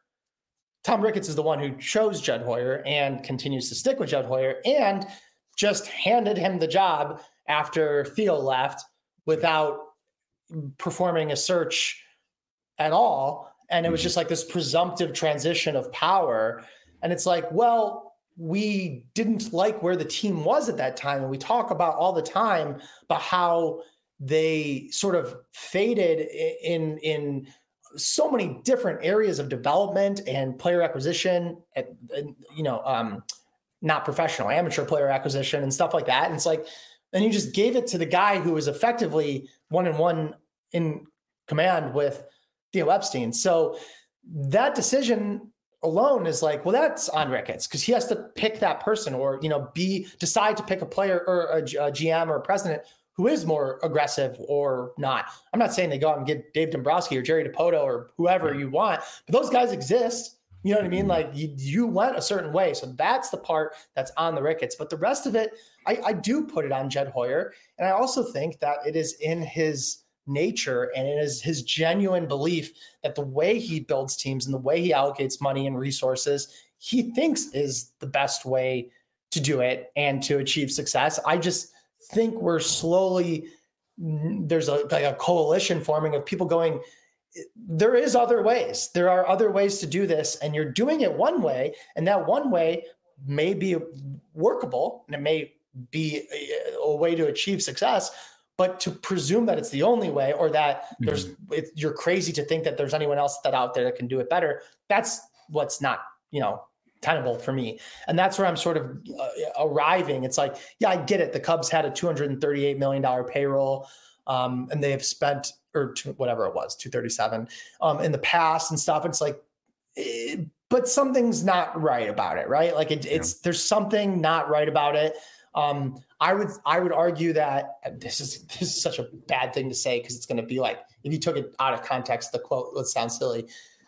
Tom Ricketts is the one who chose Jed Hoyer and continues to stick with Jed Hoyer and just handed him the job after Theo left without performing a search at all. And it was just like this presumptive transition of power. And it's like, well, we didn't like where the team was at that time. And we talk about all the time about how they sort of faded in, in so many different areas of development and player acquisition, and, and you know, um, not professional, amateur player acquisition and stuff like that. And it's like, and you just gave it to the guy who was effectively one and one in command with Theo Epstein. So that decision alone is like, well, that's on Ricketts because he has to pick that person, or, you know, be decide to pick a player or a, a G M or a president who is more aggressive or not. I'm not saying they go out and get Dave Dombrowski or Jerry Dipoto or whoever you want, but those guys exist. You know what I mean? Like you, you went a certain way. So that's the part that's on the Ricketts, but the rest of it, I, I do put it on Jed Hoyer. And I also think that it is in his nature and it is his genuine belief that the way he builds teams and the way he allocates money and resources, he thinks is the best way to do it and to achieve success. I just think we're slowly, there's a, like a coalition forming of people going, there is other ways. There are other ways to do this, and you're doing it one way, and that one way may be workable, and it may be a, a way to achieve success. But to presume that it's the only way, or that mm-hmm. there's it, you're crazy to think that there's anyone else that out there that can do it better, that's what's not, you know, tenable for me. And that's where I'm sort of uh, arriving. It's like, yeah, I get it. The Cubs had a two hundred thirty-eight million dollars payroll, um, and they have spent, or two, whatever it was, two thirty-seven um, in the past and stuff. It's like, it, but something's not right about it, right? Like it, it's, yeah. there's something not right about it. Um, I would, I would argue that this is, this is such a bad thing to say, because it's going to be like, if you took it out of context, the quote would sound silly.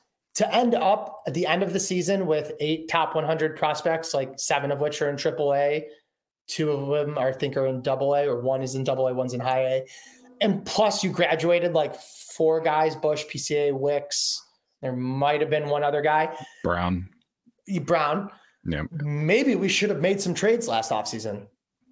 To end up at the end of the season with eight top one hundred prospects, like seven of which are in triple A, two of them are, I think are in double A, or one is in double A, one's in high A. And plus you graduated like four guys, Bush, P C A, Wicks. There might've been one other guy. Brown. Brown. Yeah. Maybe we should have made some trades last offseason.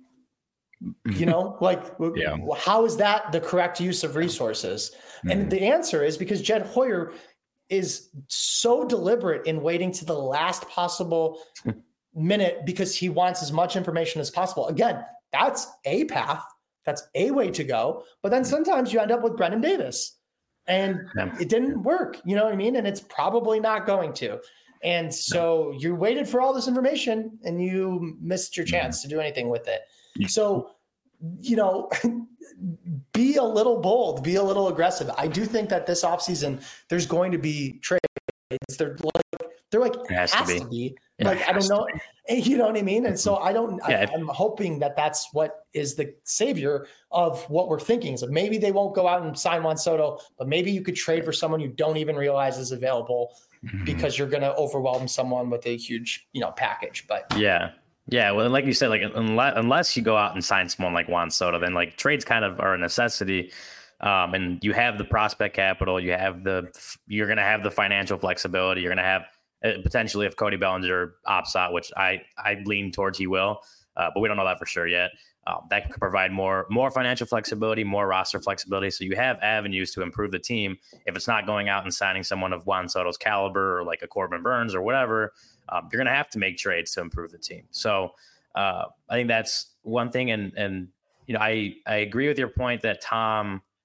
You know, like yeah. how is that the correct use of resources? Mm-hmm. And the answer is because Jed Hoyer is so deliberate in waiting to the last possible minute because he wants as much information as possible. Again, that's a path. That's a way to go. But then sometimes you end up with Brendan Davis and yeah. it didn't work. You know what I mean? And it's probably not going to. And so you waited for all this information and you missed your chance to do anything with it. So, you know, be a little bold, be a little aggressive. I do think that this offseason, there's going to be trades. They're like, they're like, it has, has to be. To be. Yeah, like, I don't know. You know what I mean? And so I don't, yeah. I, I'm hoping that that's what is the savior of what we're thinking. So maybe they won't go out and sign Juan Soto, but maybe you could trade for someone you don't even realize is available mm-hmm. because you're going to overwhelm someone with a huge, you know, package. But yeah. Yeah, well, like you said, like unless, unless you go out and sign someone like Juan Soto, then like trades kind of are a necessity. Um, and you have the prospect capital, you have the, you're going to have the financial flexibility, you're going to have uh, potentially if Cody Bellinger opts out, which I, I lean towards he will, uh, but we don't know that for sure yet. Um, that could provide more more financial flexibility, more roster flexibility. So you have avenues to improve the team. If it's not going out and signing someone of Juan Soto's caliber or like a Corbin Burns or whatever, um, you're going to have to make trades to improve the team. So uh, I think that's one thing. And, and you know, I, I agree with your point that Tom –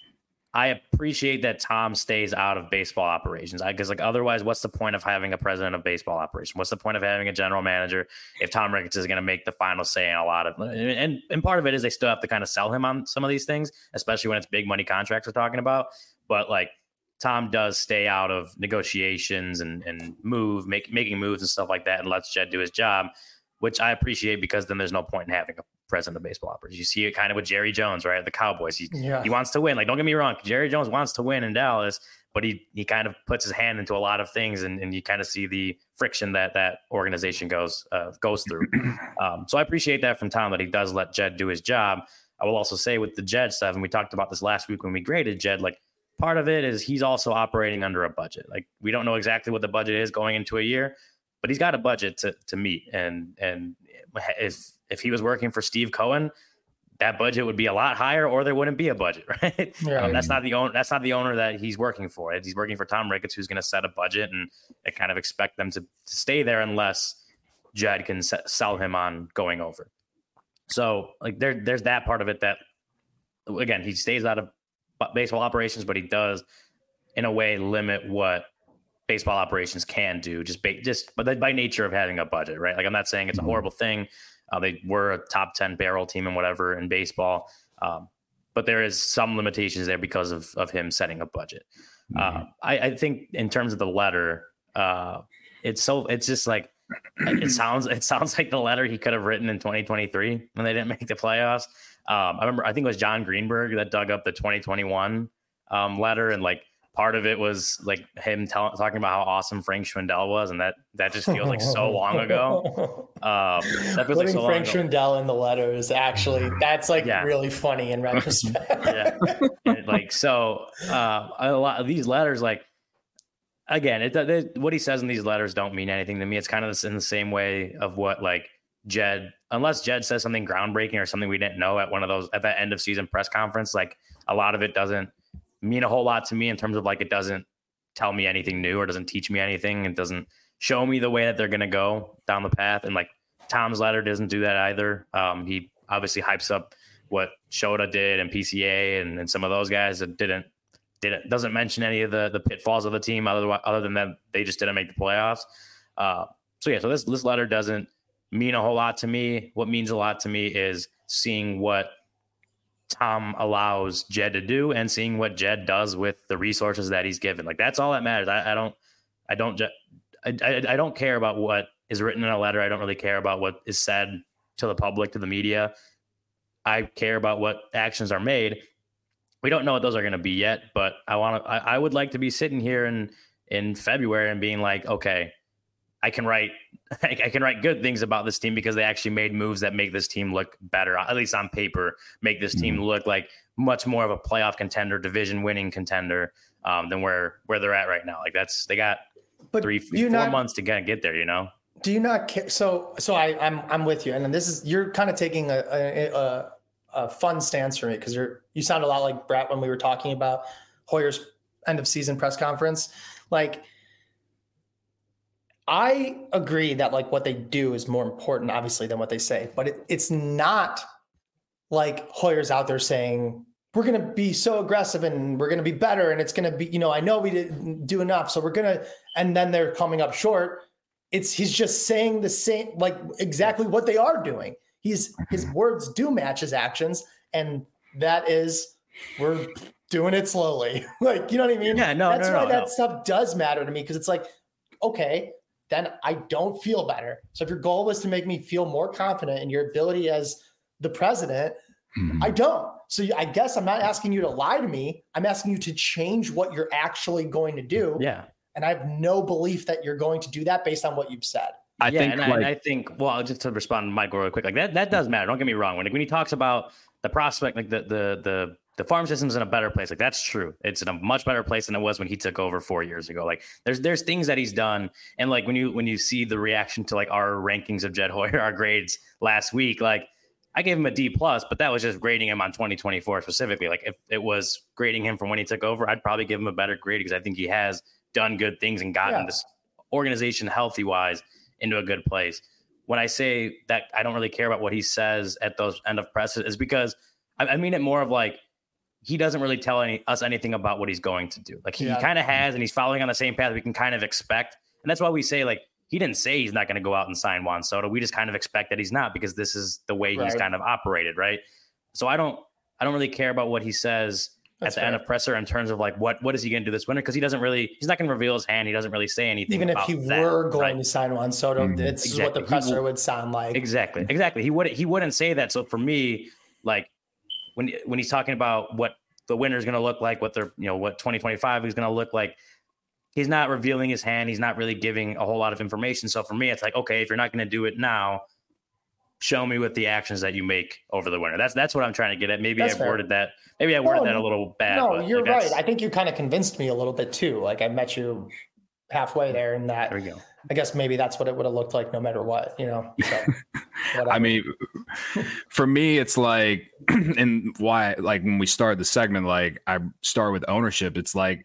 I appreciate that Tom stays out of baseball operations. I guess like otherwise, what's the point of having a president of baseball operations? What's the point of having a general manager if Tom Ricketts is going to make the final say in a lot of, and, and part of it is they still have to kind of sell him on some of these things, especially when it's big money contracts we're talking about. But like Tom does stay out of negotiations and, and move, make, making moves and stuff like that and lets Jed do his job, which I appreciate because then there's no point in having a president of baseball operations. You see it kind of with Jerry Jones, right? The Cowboys. He, yeah. he wants to win. Like, don't get me wrong. Jerry Jones wants to win in Dallas, but he he kind of puts his hand into a lot of things, and, and you kind of see the friction that that organization goes uh, goes through. Um, so I appreciate that from Tom, that he does let Jed do his job. I will also say with the Jed stuff, and we talked about this last week when we graded Jed, like part of it is he's also operating under a budget. Like we don't know exactly what the budget is going into a year, but he's got a budget to to meet. And and if if he was working for Steve Cohen, that budget would be a lot higher, or there wouldn't be a budget, right? Yeah. Um, that's not the owner. That's not the owner that he's working for. He's working for Tom Ricketts, who's going to set a budget and, and kind of expect them to, to stay there unless Jed can se- sell him on going over. So like there, there's that part of it that, again, he stays out of baseball operations, but he does in a way limit what baseball operations can do just ba- just but by nature of having a budget, right? Like I'm not saying it's a horrible thing. Uh, they were a top ten payroll team and whatever in baseball. Um, but there is some limitations there because of, of him setting a budget. Mm-hmm. Uh, I, I think in terms of the letter, uh, it's so, it's just like, it sounds, it sounds like the letter he could have written in twenty twenty-three when they didn't make the playoffs. Um, I remember, I think it was John Greenberg that dug up the twenty twenty-one um, letter, and like, part of it was like him tell, talking about how awesome Frank Schwindel was, and that that just feels like so long ago. Um, that feels Putting like so Frank long ago. Schwindel in the letter is actually that's like yeah. really funny in retrospect. yeah, and like so, uh, a lot of these letters, like again, it, it what he says in these letters don't mean anything to me. It's kind of in the same way of what like Jed, unless Jed says something groundbreaking or something we didn't know at one of those at that end of season press conference, like a lot of it doesn't mean a whole lot to me in terms of like it doesn't tell me anything new or doesn't teach me anything. It doesn't show me the way that they're going to go down the path. And like Tom's letter doesn't do that either. Um, he obviously hypes up what Shota did and P C A and, and some of those guys that didn't didn't doesn't mention any of the the pitfalls of the team other other than that they just didn't make the playoffs. Uh, so yeah, so this this letter doesn't mean a whole lot to me. What means a lot to me is seeing what Tom allows Jed to do and seeing what Jed does with the resources that he's given. Like that's all that matters. I, I don't, I don't, I, I, I don't care about what is written in a letter. I don't really care about what is said to the public, to the media. I care about what actions are made. We don't know what those are going to be yet, but I want to, I, I would like to be sitting here in, in February and being like, okay, I can write, I can write good things about this team because they actually made moves that make this team look better, at least on paper, make this team look like much more of a playoff contender, division winning contender um, than where, where they're at right now. Like that's, they got but three, four not, months to kind of get there, you know? Do you not care? So, so I, I'm, I'm with you. And this is, you're kind of taking a, a, a, a fun stance for me because you're, you sound a lot like Brett when we were talking about Hoyer's end of season press conference. Like, I agree that like what they do is more important, obviously, than what they say, but it, it's not like Hoyer's out there saying, we're going to be so aggressive and we're going to be better. And it's going to be, you know, I know we didn't do enough. So we're going to, and then they're coming up short. It's, he's just saying the same, like exactly what they are doing. He's, his words do match his actions. And that is, we're doing it slowly. Like, you know what I mean? Yeah, no, That's no, why no, that no. stuff does matter to me. Cause it's like, okay, then I don't feel better. So if your goal was to make me feel more confident in your ability as the president, mm-hmm. I don't. So I guess I'm not asking you to lie to me. I'm asking you to change what you're actually going to do. Yeah. And I have no belief that you're going to do that based on what you've said. I yeah, think, and, like, I, and I think, well, just to respond to Michael real quick, like that, that does matter. Don't get me wrong. When, when he talks about the prospect, like the, the, the, the farm system's in a better place. Like, that's true. It's in a much better place than it was when he took over four years ago. Like, there's there's things that he's done. And like when you when you see the reaction to like our rankings of Jed Hoyer, our grades last week, like I gave him a D plus, but that was just grading him on twenty twenty-four specifically. Like if it was grading him from when he took over, I'd probably give him a better grade because I think he has done good things and gotten yeah. this organization healthy wise into a good place. When I say that I don't really care about what he says at those end of presses is because I, I mean it more of like, he doesn't really tell any, us anything about what he's going to do. Like he yeah. kind of has, and he's following on the same path we can kind of expect. And that's why we say, like, he didn't say he's not going to go out and sign Juan Soto. We just kind of expect that he's not, because this is the way right. he's kind of operated. Right. So I don't, I don't really care about what he says that's at the fair. end of presser in terms of like, what, what is he going to do this winter? Cause he doesn't really, he's not going to reveal his hand. He doesn't really say anything. Even about if he that, were going right? to sign Juan Soto, mm-hmm. it's exactly. what the presser he, would sound like. Exactly. Exactly. He wouldn't, he wouldn't say that. So for me, like when, when he's talking about what the winter is going to look like, what they're, you know, what twenty twenty-five is going to look like, he's not revealing his hand. He's not really giving a whole lot of information. So for me, it's like, okay, if you're not going to do it now, show me with the actions that you make over the winter. That's that's what I'm trying to get at. Maybe I worded that. Maybe I worded no, that a little bad. No, but you're like right. I think you kind of convinced me a little bit too. Like I met you halfway there, and that. There we go. I guess maybe that's what it would have looked like, no matter what, you know. So, I mean, for me, it's like, and why, like when we started the segment, like I start with ownership. It's like,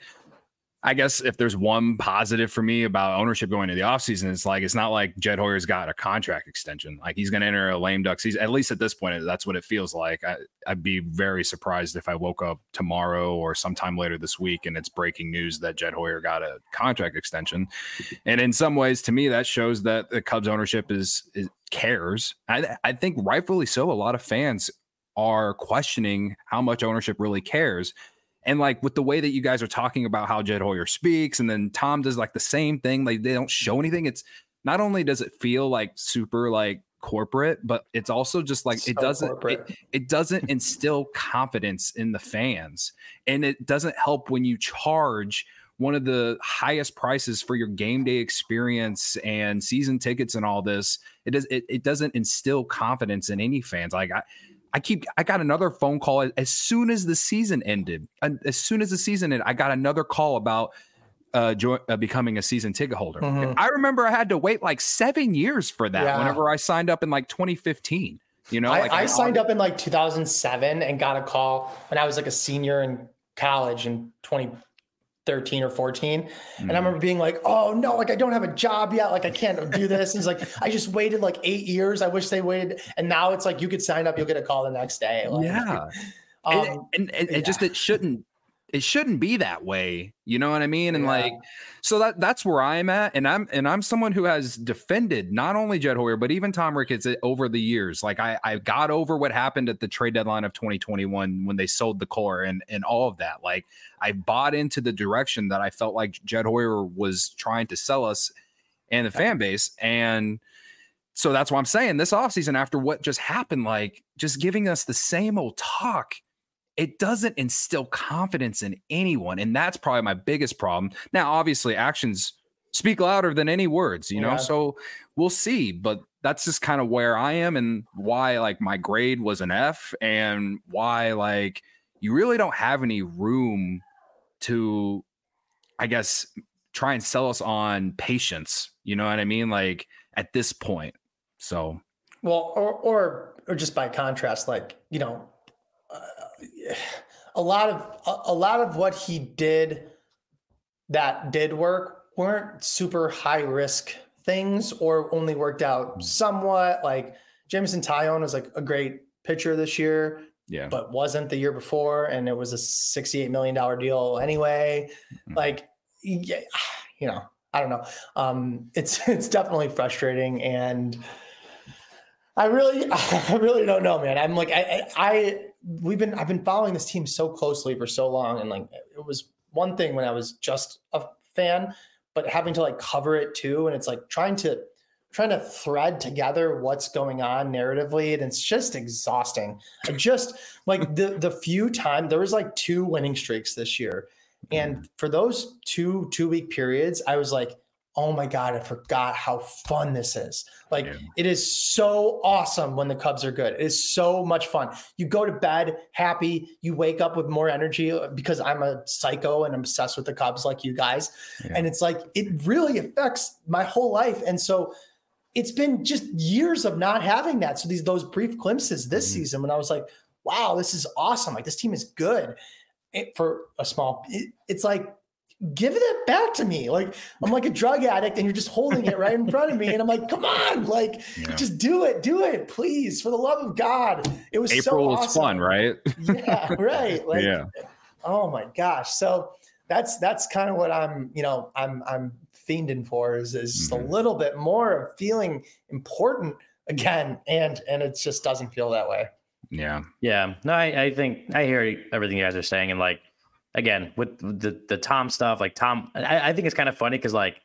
I guess if there's one positive for me about ownership going into the offseason, it's like, it's not like Jed Hoyer's got a contract extension. Like he's going to enter a lame duck season. At least at this point, that's what it feels like. I, I'd be very surprised if I woke up tomorrow or sometime later this week and it's breaking news that Jed Hoyer got a contract extension. And in some ways, to me, that shows that the Cubs ownership is, is cares. I, I think rightfully so. A lot of fans are questioning how much ownership really cares. And like with the way that you guys are talking about how Jed Hoyer speaks, and then Tom does like the same thing, like they don't show anything. It's not only does it feel like super like corporate, but it's also just like so it doesn't it, it doesn't instill confidence in the fans, and it doesn't help when you charge one of the highest prices for your game day experience and season tickets and all this. It does it, it doesn't instill confidence in any fans. Like I. I keep. I got another phone call as soon as the season ended. As soon as the season ended, I got another call about uh, joy, uh, becoming a season ticket holder. Mm-hmm. I remember I had to wait like seven years for that. Yeah. Whenever I signed up in like twenty fifteen, you know, I, like I, I signed up in like two thousand seven and got a call when I was like a senior in college in twenty thirteen or fourteen. And I remember being like, oh no, like I don't have a job yet. Like I can't do this. And he's like, I just waited like eight years. I wish they waited. And now it's like, you could sign up, you'll get a call the next day. Like, yeah. Um, and, and, and yeah. it just, it shouldn't, it shouldn't be that way. You know what I mean? And yeah. like, so that that's where I'm at. And I'm, and I'm someone who has defended not only Jed Hoyer, but even Tom Ricketts over the years. Like I, I got over what happened at the trade deadline of twenty twenty-one when they sold the core and, and all of that. Like I bought into the direction that I felt like Jed Hoyer was trying to sell us and the fan base. And so that's why I'm saying this offseason, after what just happened, like just giving us the same old talk, it doesn't instill confidence in anyone. And that's probably my biggest problem. Now, obviously, actions speak louder than any words, you know, yeah. so we'll see. But that's just kind of where I am and why, like, my grade was an F and why, like, you really don't have any room to, I guess, try and sell us on patience. You know what I mean? Like, at this point. So, well, or, or, or just by contrast, like, you know, uh, a lot of a, a lot of what he did that did work weren't super high risk things or only worked out somewhat. Like Jameson Taillon was like a great pitcher this year, yeah, but wasn't the year before, and it was a sixty-eight million dollars deal anyway. Mm-hmm. Like, yeah, you know, I don't know. Um, it's it's definitely frustrating, and I really I really don't know, man. I'm like I I. I We've been, I've been following this team so closely for so long. And like, it was one thing when I was just a fan, but having to like cover it too. And it's like trying to, trying to thread together what's going on narratively. And it's just exhausting. I just like the, the few times there was like two winning streaks this year. And for those two, two week periods, I was like, oh my God, I forgot how fun this is. Like yeah. It is so awesome when the Cubs are good. It is so much fun. You go to bed happy, you wake up with more energy because I'm a psycho and I'm obsessed with the Cubs like you guys. Yeah. And it's like, it really affects my whole life. And so it's been just years of not having that. So these, those brief glimpses this mm-hmm. season when I was like, wow, this is awesome. Like this team is good it, for a small, it, it's like, give it back to me. Like I'm like a drug addict and you're just holding it right in front of me. And I'm like, come on, like yeah. just do it, do it, please. For the love of God. It was April so was awesome. fun, right? Yeah. Right. Like, yeah. Oh my gosh. So that's, that's kind of what I'm, you know, I'm, I'm fiending for is, is just mm-hmm. a little bit more of feeling important again. And, and it just doesn't feel that way. Yeah. Yeah. No, I, I think I hear everything you guys are saying. And like, again, with the, the Tom stuff, like Tom, I, I think it's kind of funny because like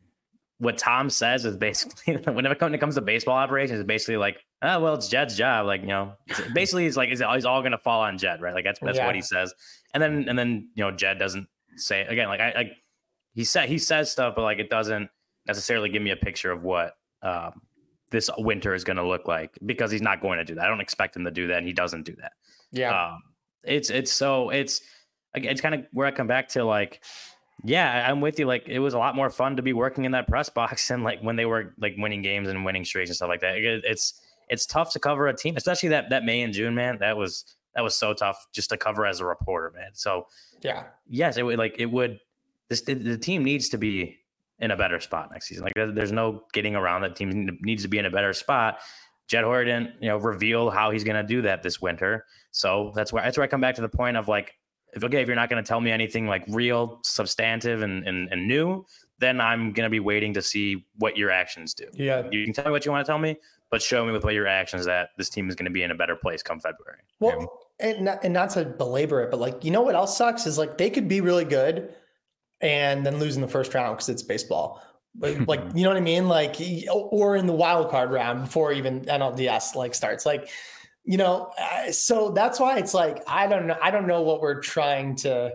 what Tom says is basically whenever it comes to baseball operations, it's basically like, oh, well, it's Jed's job. Like, you know, basically it's like, it's always all going to fall on Jed, right? Like that's, that's yeah. what he says. And then, and then, you know, Jed doesn't say again, like I, like he said, he says stuff, but like, it doesn't necessarily give me a picture of what um, this winter is going to look like because he's not going to do that. I don't expect him to do that. And he doesn't do that. Yeah. Um, it's, it's so it's, it's kind of where I come back to like, yeah, I'm with you. Like it was a lot more fun to be working in that press box and like when they were like winning games and winning streaks and stuff like that. It, it's it's tough to cover a team, especially that that May and June, man. That was that was so tough just to cover as a reporter, man. So yeah, yes, it would like it would. This the, the team needs to be in a better spot next season. Like there, there's no getting around that. Team needs to be in a better spot. Jed Hoyer didn't, you know, reveal how he's going to do that this winter. So that's where that's where I come back to the point of like. If, okay, if you're not going to tell me anything like real, substantive, and, and, and new, then I'm going to be waiting to see what your actions do. Yeah. You can tell me what you want to tell me, but show me with what your actions that this team is going to be in a better place come February. Well, and not, and not to belabor it, but like, you know what else sucks is like they could be really good and then lose in the first round because it's baseball. Like, like, you know what I mean? Like, or in the wild card round before even N L D S like starts. Like, you know, so that's why it's like, I don't know. I don't know what we're trying to,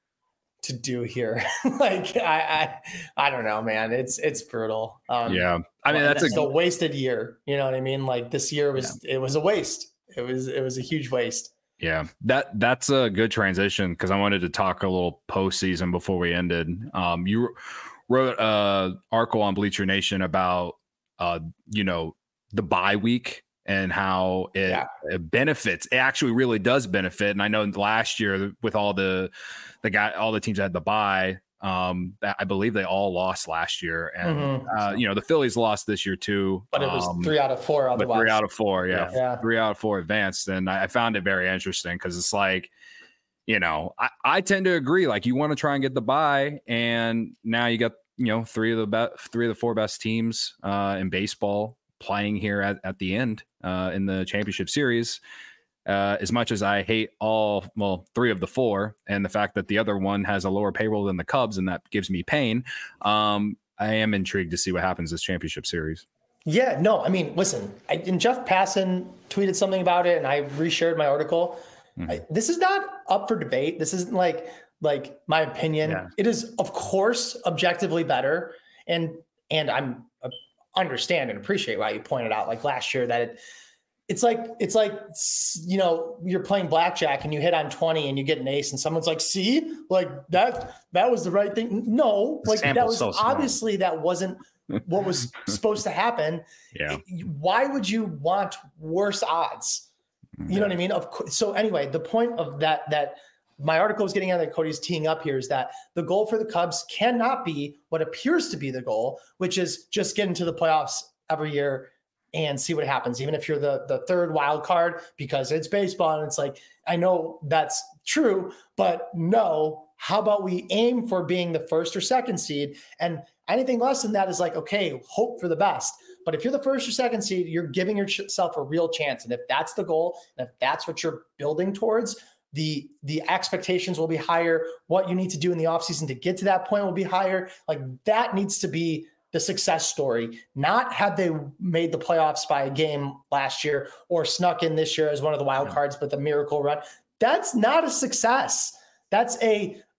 to do here. like, I, I, I don't know, man. It's, it's brutal. Um, yeah. I mean, that's, that's a, a wasted year. You know what I mean? Like this year was, yeah. it was a waste. It was, it was a huge waste. Yeah, that that's a good transition because I wanted to talk a little postseason before we ended. Um, you wrote an article on Bleacher Nation about, uh, you know, the bye week and how it, yeah. it benefits. It actually really does benefit. And I know last year with all the the guy, all the teams that had the bye, um, I believe they all lost last year. And mm-hmm. uh, you know, the Phillies lost this year too. But it was um, three out of four. Otherwise, but three out of four, yeah, yeah. three out of four advanced. And I, I found it very interesting because it's like, you know, I, I tend to agree. Like you want to try and get the bye, and now you got you know three of the best, three of the four best teams uh, in baseball playing here at, at the end uh, in the championship series. Uh, as much as I hate all, well, three of the four, and the fact that the other one has a lower payroll than the Cubs, and that gives me pain, um, I am intrigued to see what happens this championship series. Yeah, no, I mean, listen, I, and Jeff Passan tweeted something about it, and I reshared my article. Mm-hmm. I, this is not up for debate. This isn't like like my opinion. Yeah. It is, of course, objectively better, and and I'm uh, understand and appreciate why you pointed out, like last year, that it. It's like, it's like, you know, you're playing blackjack and you hit on twenty and you get an ace and someone's like, see, like that, that was the right thing. No, like that was so obviously that wasn't what was supposed to happen. Yeah. Why would you want worse odds? You know what I mean? Of course. So anyway, the point of that, that my article was getting at that Cody's teeing up here is that the goal for the Cubs cannot be what appears to be the goal, which is just get into the playoffs every year and see what happens, even if you're the, the third wild card, because it's baseball. And it's like, I know that's true, but no, how about we aim for being the first or second seed? And anything less than that is like, okay, hope for the best. But if you're the first or second seed, you're giving yourself a real chance. And if that's the goal, and if that's what you're building towards, the, the expectations will be higher. What you need to do in the offseason to get to that point will be higher. Like that needs to be the success story, not had they made the playoffs by a game last year or snuck in this year as one of the wild cards, but the miracle run. That's not a success. That's a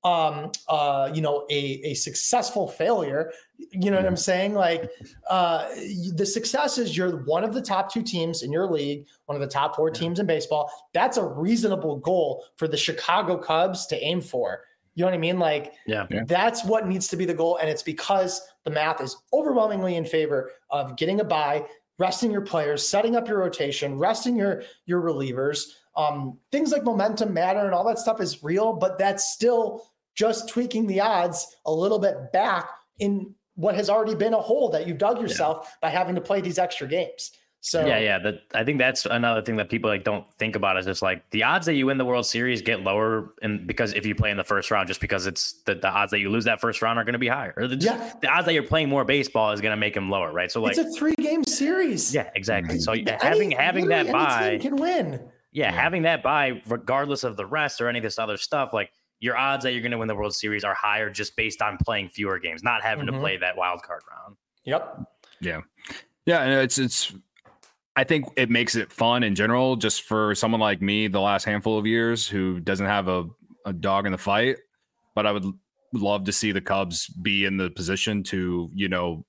um, uh, you know, a, a successful failure. You know what I'm saying? Like uh, the success is you're one of the top two teams in your league, one of the top four teams in baseball. That's a reasonable goal for the Chicago Cubs to aim for. You know what I mean? Like yeah. that's what needs to be the goal. And it's because the math is overwhelmingly in favor of getting a bye, resting your players, setting up your rotation, resting your, your relievers. Um, things like momentum matter and all that stuff is real, but that's still just tweaking the odds a little bit back in what has already been a hole that you've dug yourself yeah. by having to play these extra games. So yeah, yeah. That I think that's another thing that people like don't think about is just like the odds that you win the World Series get lower, and because if you play in the first round, just because it's the, the odds that you lose that first round are going to be higher. Or the, yeah. the odds that you're playing more baseball is going to make them lower, right? So like it's a three game series. Yeah, exactly. So any, having having that bye can win. Yeah, yeah, having that bye, regardless of the rest or any of this other stuff, like your odds that you're going to win the World Series are higher just based on playing fewer games, not having mm-hmm. to play that wild card round. Yep. Yeah. Yeah. And it's, it's, I think it makes it fun in general, just for someone like me, the last handful of years who doesn't have a, a dog in the fight, but I would love to see the Cubs be in the position to, you know,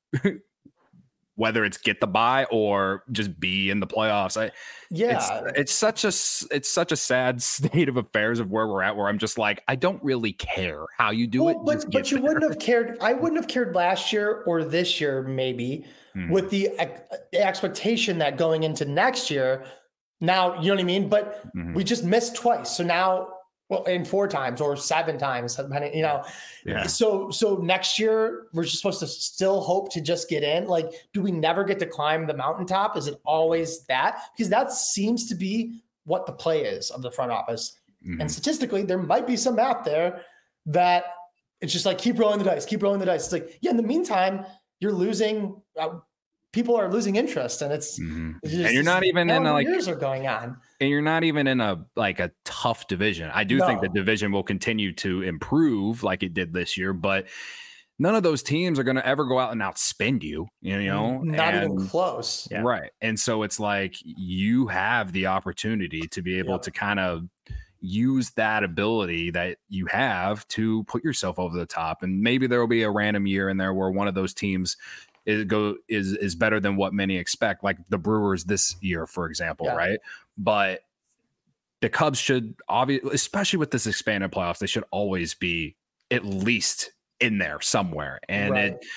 whether it's get the bye or just be in the playoffs. I, yeah, it's, it's such a, it's such a sad state of affairs of where we're at, where I'm just like, I don't really care how you do well, it. But, but you there. wouldn't have cared. I wouldn't have cared last year or this year, maybe hmm. with the, the expectation that going into next year, now, you know what I mean? But mm-hmm. we just missed twice. So now, well, in four times or seven times, you know. Yeah. So so next year we're just supposed to still hope to just get in. Like, do we never get to climb the mountaintop? Is it always that? Because that seems to be what the play is of the front office. Mm-hmm. And statistically, there might be some math there that it's just like keep rolling the dice, keep rolling the dice. It's like, yeah. In the meantime, you're losing. Uh, people are losing interest, and it's, mm-hmm. it's just, and you're not even in a, like years are going on. And you're not even in a like a tough division. I do no. think the division will continue to improve like it did this year, but none of those teams are going to ever go out and outspend you, you know, not and, even close. Yeah. Right. And so it's like you have the opportunity to be able yep. to kind of use that ability that you have to put yourself over the top. And maybe there will be a random year in there where one of those teams is go is is better than what many expect, like the Brewers this year, for example, yeah. right? But the Cubs should obviously, especially with this expanded playoffs, they should always be at least in there somewhere. And right. it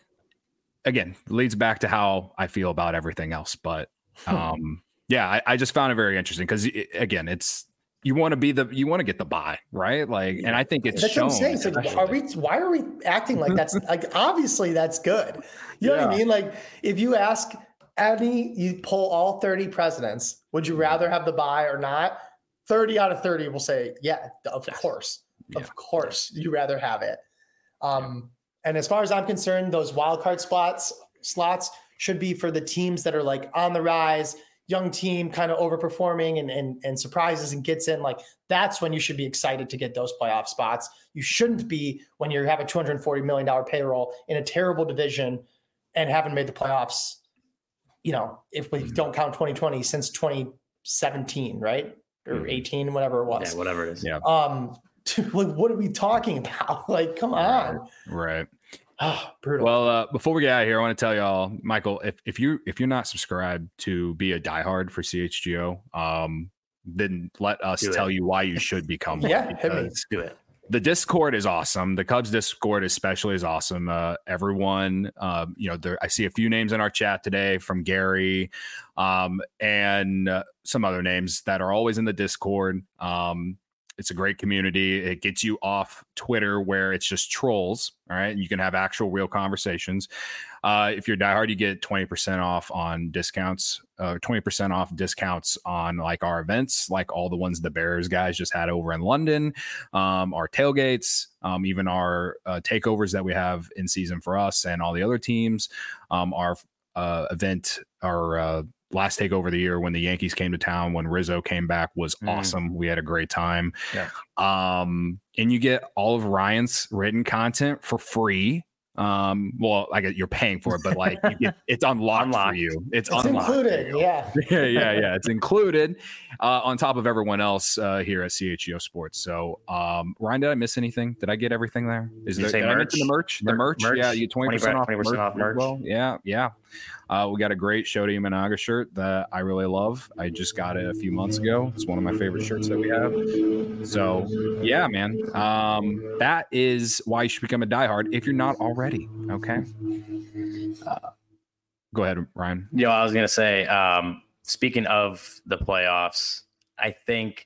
again leads back to how I feel about everything else. But um, yeah, I, I just found it very interesting because it, again, it's you want to be the you want to get the bye, right? Like, and I think it's that's shown. What I'm saying. It's like, are we? Why are we acting like that's like obviously that's good? You know yeah. what I mean? Like, if you ask any, you poll all thirty presidents, would you rather have the bye or not? thirty out of thirty will say, yeah, of course, yeah. of course, you rather have it. Um, and as far as I'm concerned, those wild card spots slots should be for the teams that are like on the rise. Young team kind of overperforming and, and and surprises and gets in, like that's when you should be excited to get those playoff spots. You shouldn't be when you have a two hundred forty million dollars payroll in a terrible division and haven't made the playoffs, you know, if we don't count twenty twenty since twenty seventeen, right? Or mm-hmm. eighteen, whatever it was. Yeah, whatever it is. Yeah. Um, like, what are we talking about? Like, come on. Right. Oh, brutal. Well, uh, before we get out of here, I want to tell y'all, Michael, if, if you if you're not subscribed to be a diehard for C H G O, um, then let us do tell it. you why you should become one. Yeah, hit me. Do it. The Discord is awesome. The Cubs Discord especially is awesome. Uh, everyone, um, you know, there, I see a few names in our chat today from Gary um, and uh, some other names that are always in the Discord. Um, It's a great community. It gets you off Twitter where it's just trolls. All right. And you can have actual real conversations. Uh, if you're diehard, you get twenty percent off on discounts, uh, twenty percent off discounts on like our events, like all the ones the Bears guys just had over in London, um, our tailgates, um, even our uh, takeovers that we have in season for us and all the other teams, um, our uh, event, our uh, last takeover of the year when the Yankees came to town, when Rizzo came back was mm. awesome. We had a great time. Yeah. Um, and you get all of Ryan's written content for free. Um, well, I get you're paying for it, but like you get, it's unlocked, unlocked for you. It's, it's unlocked included. Yeah. yeah, yeah, yeah. It's included uh, on top of everyone else uh, here at C H G O Sports. So, um, Ryan, did I miss anything? Did I get everything there? Is did there you say merch? the merch? The merch? merch? Yeah, you twenty percent off, twenty percent off merch. Well, yeah, yeah. Uh, we got a great Shota Imanaga shirt that I really love. I just got it a few months ago. It's one of my favorite shirts that we have. So, yeah, man. Um, that is why you should become a diehard if you're not already. Okay. Uh, go ahead, Ryan. Yeah, I was gonna say. Um, speaking of the playoffs, I think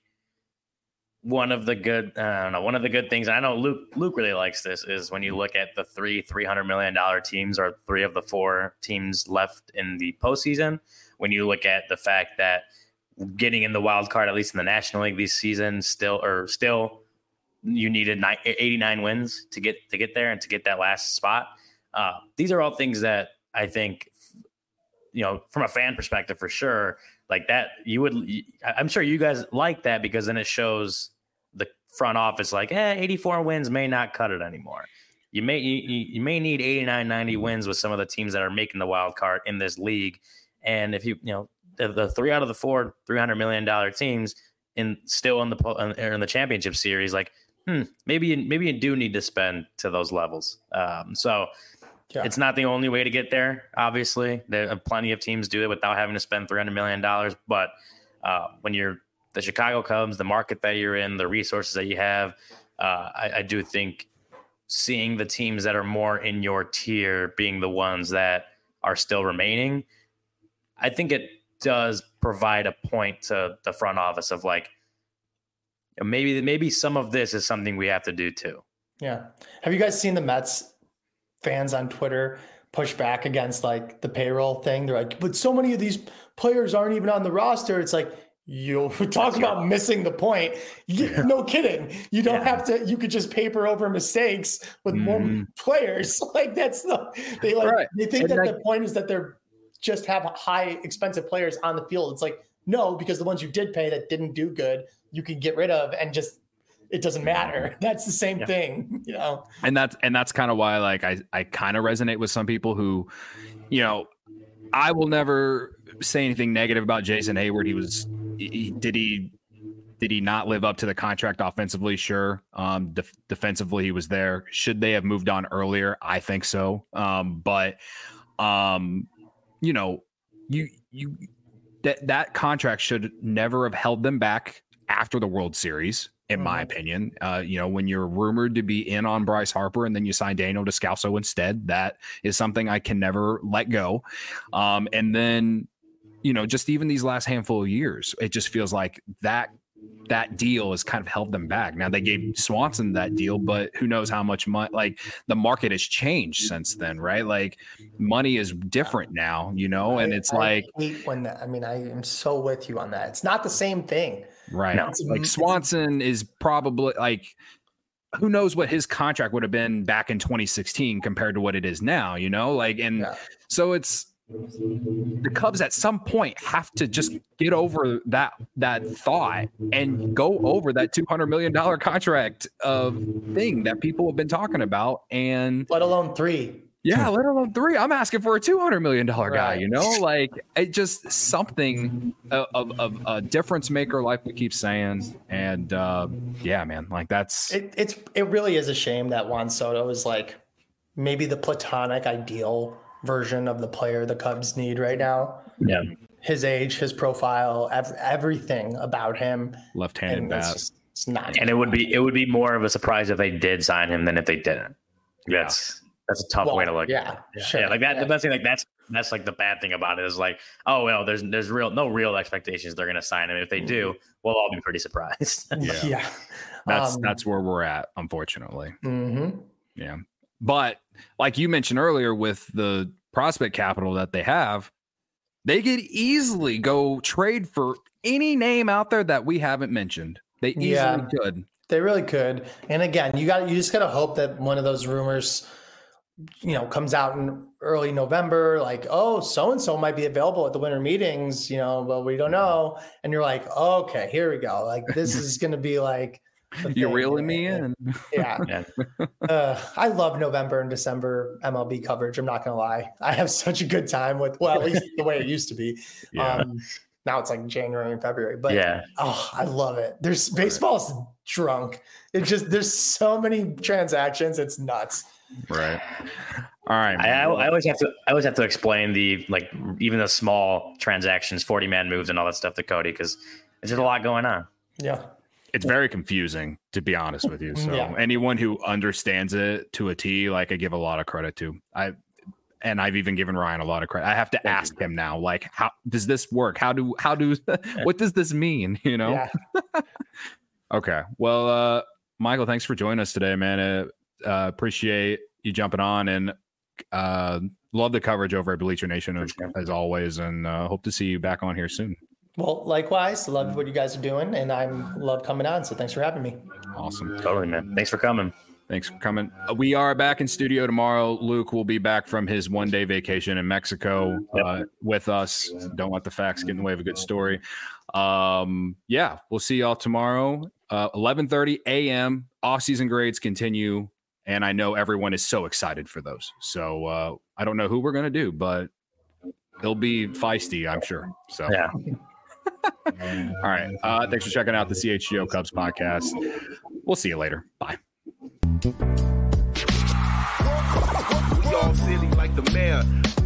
one of the good, I don't know, one of the good things. I know Luke. Luke really likes this. Is when you look at the three three hundred million dollar teams, or three of the four teams left in the postseason. When you look at the fact that getting in the wild card, at least in the National League this season, still or still, you needed eighty-nine wins to get to get there and to get that last spot. Uh, these are all things that I think, you know, from a fan perspective, for sure, like that, you would, I'm sure you guys like that, because then it shows the front office like, eh, eighty-four wins may not cut it anymore. You may, you, you may need eighty-nine, ninety wins with some of the teams that are making the wild card in this league. And if you, you know, the, the three out of the four three hundred million dollars teams in still in the, in the championship series, like, hmm, maybe, you, maybe you do need to spend to those levels. Um, so, Yeah. It's not the only way to get there. Obviously, there are plenty of teams do it without having to spend three hundred million dollars. But uh, when you're the Chicago Cubs, the market that you're in, the resources that you have, uh, I, I do think seeing the teams that are more in your tier being the ones that are still remaining, I think it does provide a point to the front office of like, maybe maybe some of this is something we have to do too. Yeah. Have you guys seen the Mets fans on Twitter push back against like the payroll thing? They're like, but so many of these players aren't even on the roster. It's like, you talk about missing the point. You, yeah. No kidding. You don't yeah. have to, you could just paper over mistakes with mm. more players. Like that's the, they like, right. they think and that like, the point is that they're just have high expensive players on the field. It's like, no, because the ones you did pay that didn't do good, you can get rid of and just, it doesn't matter. That's the same yeah. thing, you know? And that's, and that's kind of why, like, I, I kind of resonate with some people who, you know, I will never say anything negative about Jason Hayward. He was, he, did he, did he not live up to the contract offensively? Sure. Um, def- defensively, he was there. Should they have moved on earlier? I think so. Um, but, um, you know, you, you, that, that contract should never have held them back after the World Series. In my opinion, uh, you know, when you're rumored to be in on Bryce Harper and then you sign Daniel Descalso instead, that is something I can never let go. Um, and then, you know, just even these last handful of years, it just feels like that that deal has kind of held them back. Now they gave Swanson that deal, but who knows how much money, like the market has changed since then, right? Like money is different now, you know, and it's I, like, I hate when that, I mean, I am so with you on that. It's not the same thing. Right. No, like Swanson is probably like, who knows what his contract would have been back in twenty sixteen compared to what it is now, you know, like, and yeah. so it's, the Cubs at some point have to just get over that that thought and go over that two hundred million dollars contract of thing that people have been talking about, and let alone three. Yeah, let alone three. I'm asking for a two hundred million dollars right. guy, you know, like it just something of, of, of a difference maker, like we keep saying. And uh, yeah, man, like that's it, it's it really is a shame that Juan Soto is like maybe the platonic ideal version of the player the Cubs need right now. Yeah. His age, his profile, ev- everything about him. Left-handed bat. It's, just, it's not. And it would be it would be more of a surprise if they did sign him than if they didn't. That's yeah. that's a tough well, way to look yeah, at it. Yeah, sure. yeah, like that. Yeah. That's like that's that's like the bad thing about it is like, oh well, there's there's real no real expectations they're going to sign him. If they do, we'll all be pretty surprised. yeah. yeah, that's um, that's where we're at, unfortunately. Mm-hmm. Yeah, but like you mentioned earlier, with the prospect capital that they have, they could easily go trade for any name out there that we haven't mentioned. They easily yeah, could. They really could. And again, you got you just got to hope that one of those rumors, you know, comes out in early November, like, oh, so-and-so might be available at the winter meetings, you know, but we don't know. And you're like, oh, okay, here we go. Like, this is going to be like You're reeling me in. Yeah. yeah. Uh, I love November and December M L B coverage. I'm not going to lie. I have such a good time with, well, at least the way it used to be. Yeah. Um, now it's like January and February, but yeah. oh, I love it. There's baseball's drunk. It just, there's so many transactions. It's nuts. Right. All right. I, I always have to, I always have to explain the, like, even the small transactions, forty man moves and all that stuff to Cody, because there's just a lot going on. Yeah. It's very confusing, to be honest with you. So yeah. anyone who understands it to a T, like, I give a lot of credit to. I and I've even given Ryan a lot of credit. I have to Thank ask you. him now, like, how does this work? How do how do what does this mean? You know? Yeah. Okay. Well, uh, Michael, thanks for joining us today, man. Uh, uh, appreciate you jumping on, and uh, love the coverage over at Bleacher Nation as, as always, and uh, hope to see you back on here soon. Well, likewise, love what you guys are doing, and I love coming on. So thanks for having me. Awesome. Totally, man. Thanks for coming. Thanks for coming. We are back in studio tomorrow. Luke will be back from his one-day vacation in Mexico yep. uh, with us. Don't let the facts get in the way of a good story. Um, yeah, we'll see y'all tomorrow, uh, eleven thirty a.m. Off-season grades continue, and I know everyone is so excited for those. So uh, I don't know who we're going to do, but it'll be feisty, I'm sure. So yeah. All right. Uh, thanks for checking out the C H G O Cubs podcast. We'll see you later. Bye. We all silly like the mayor.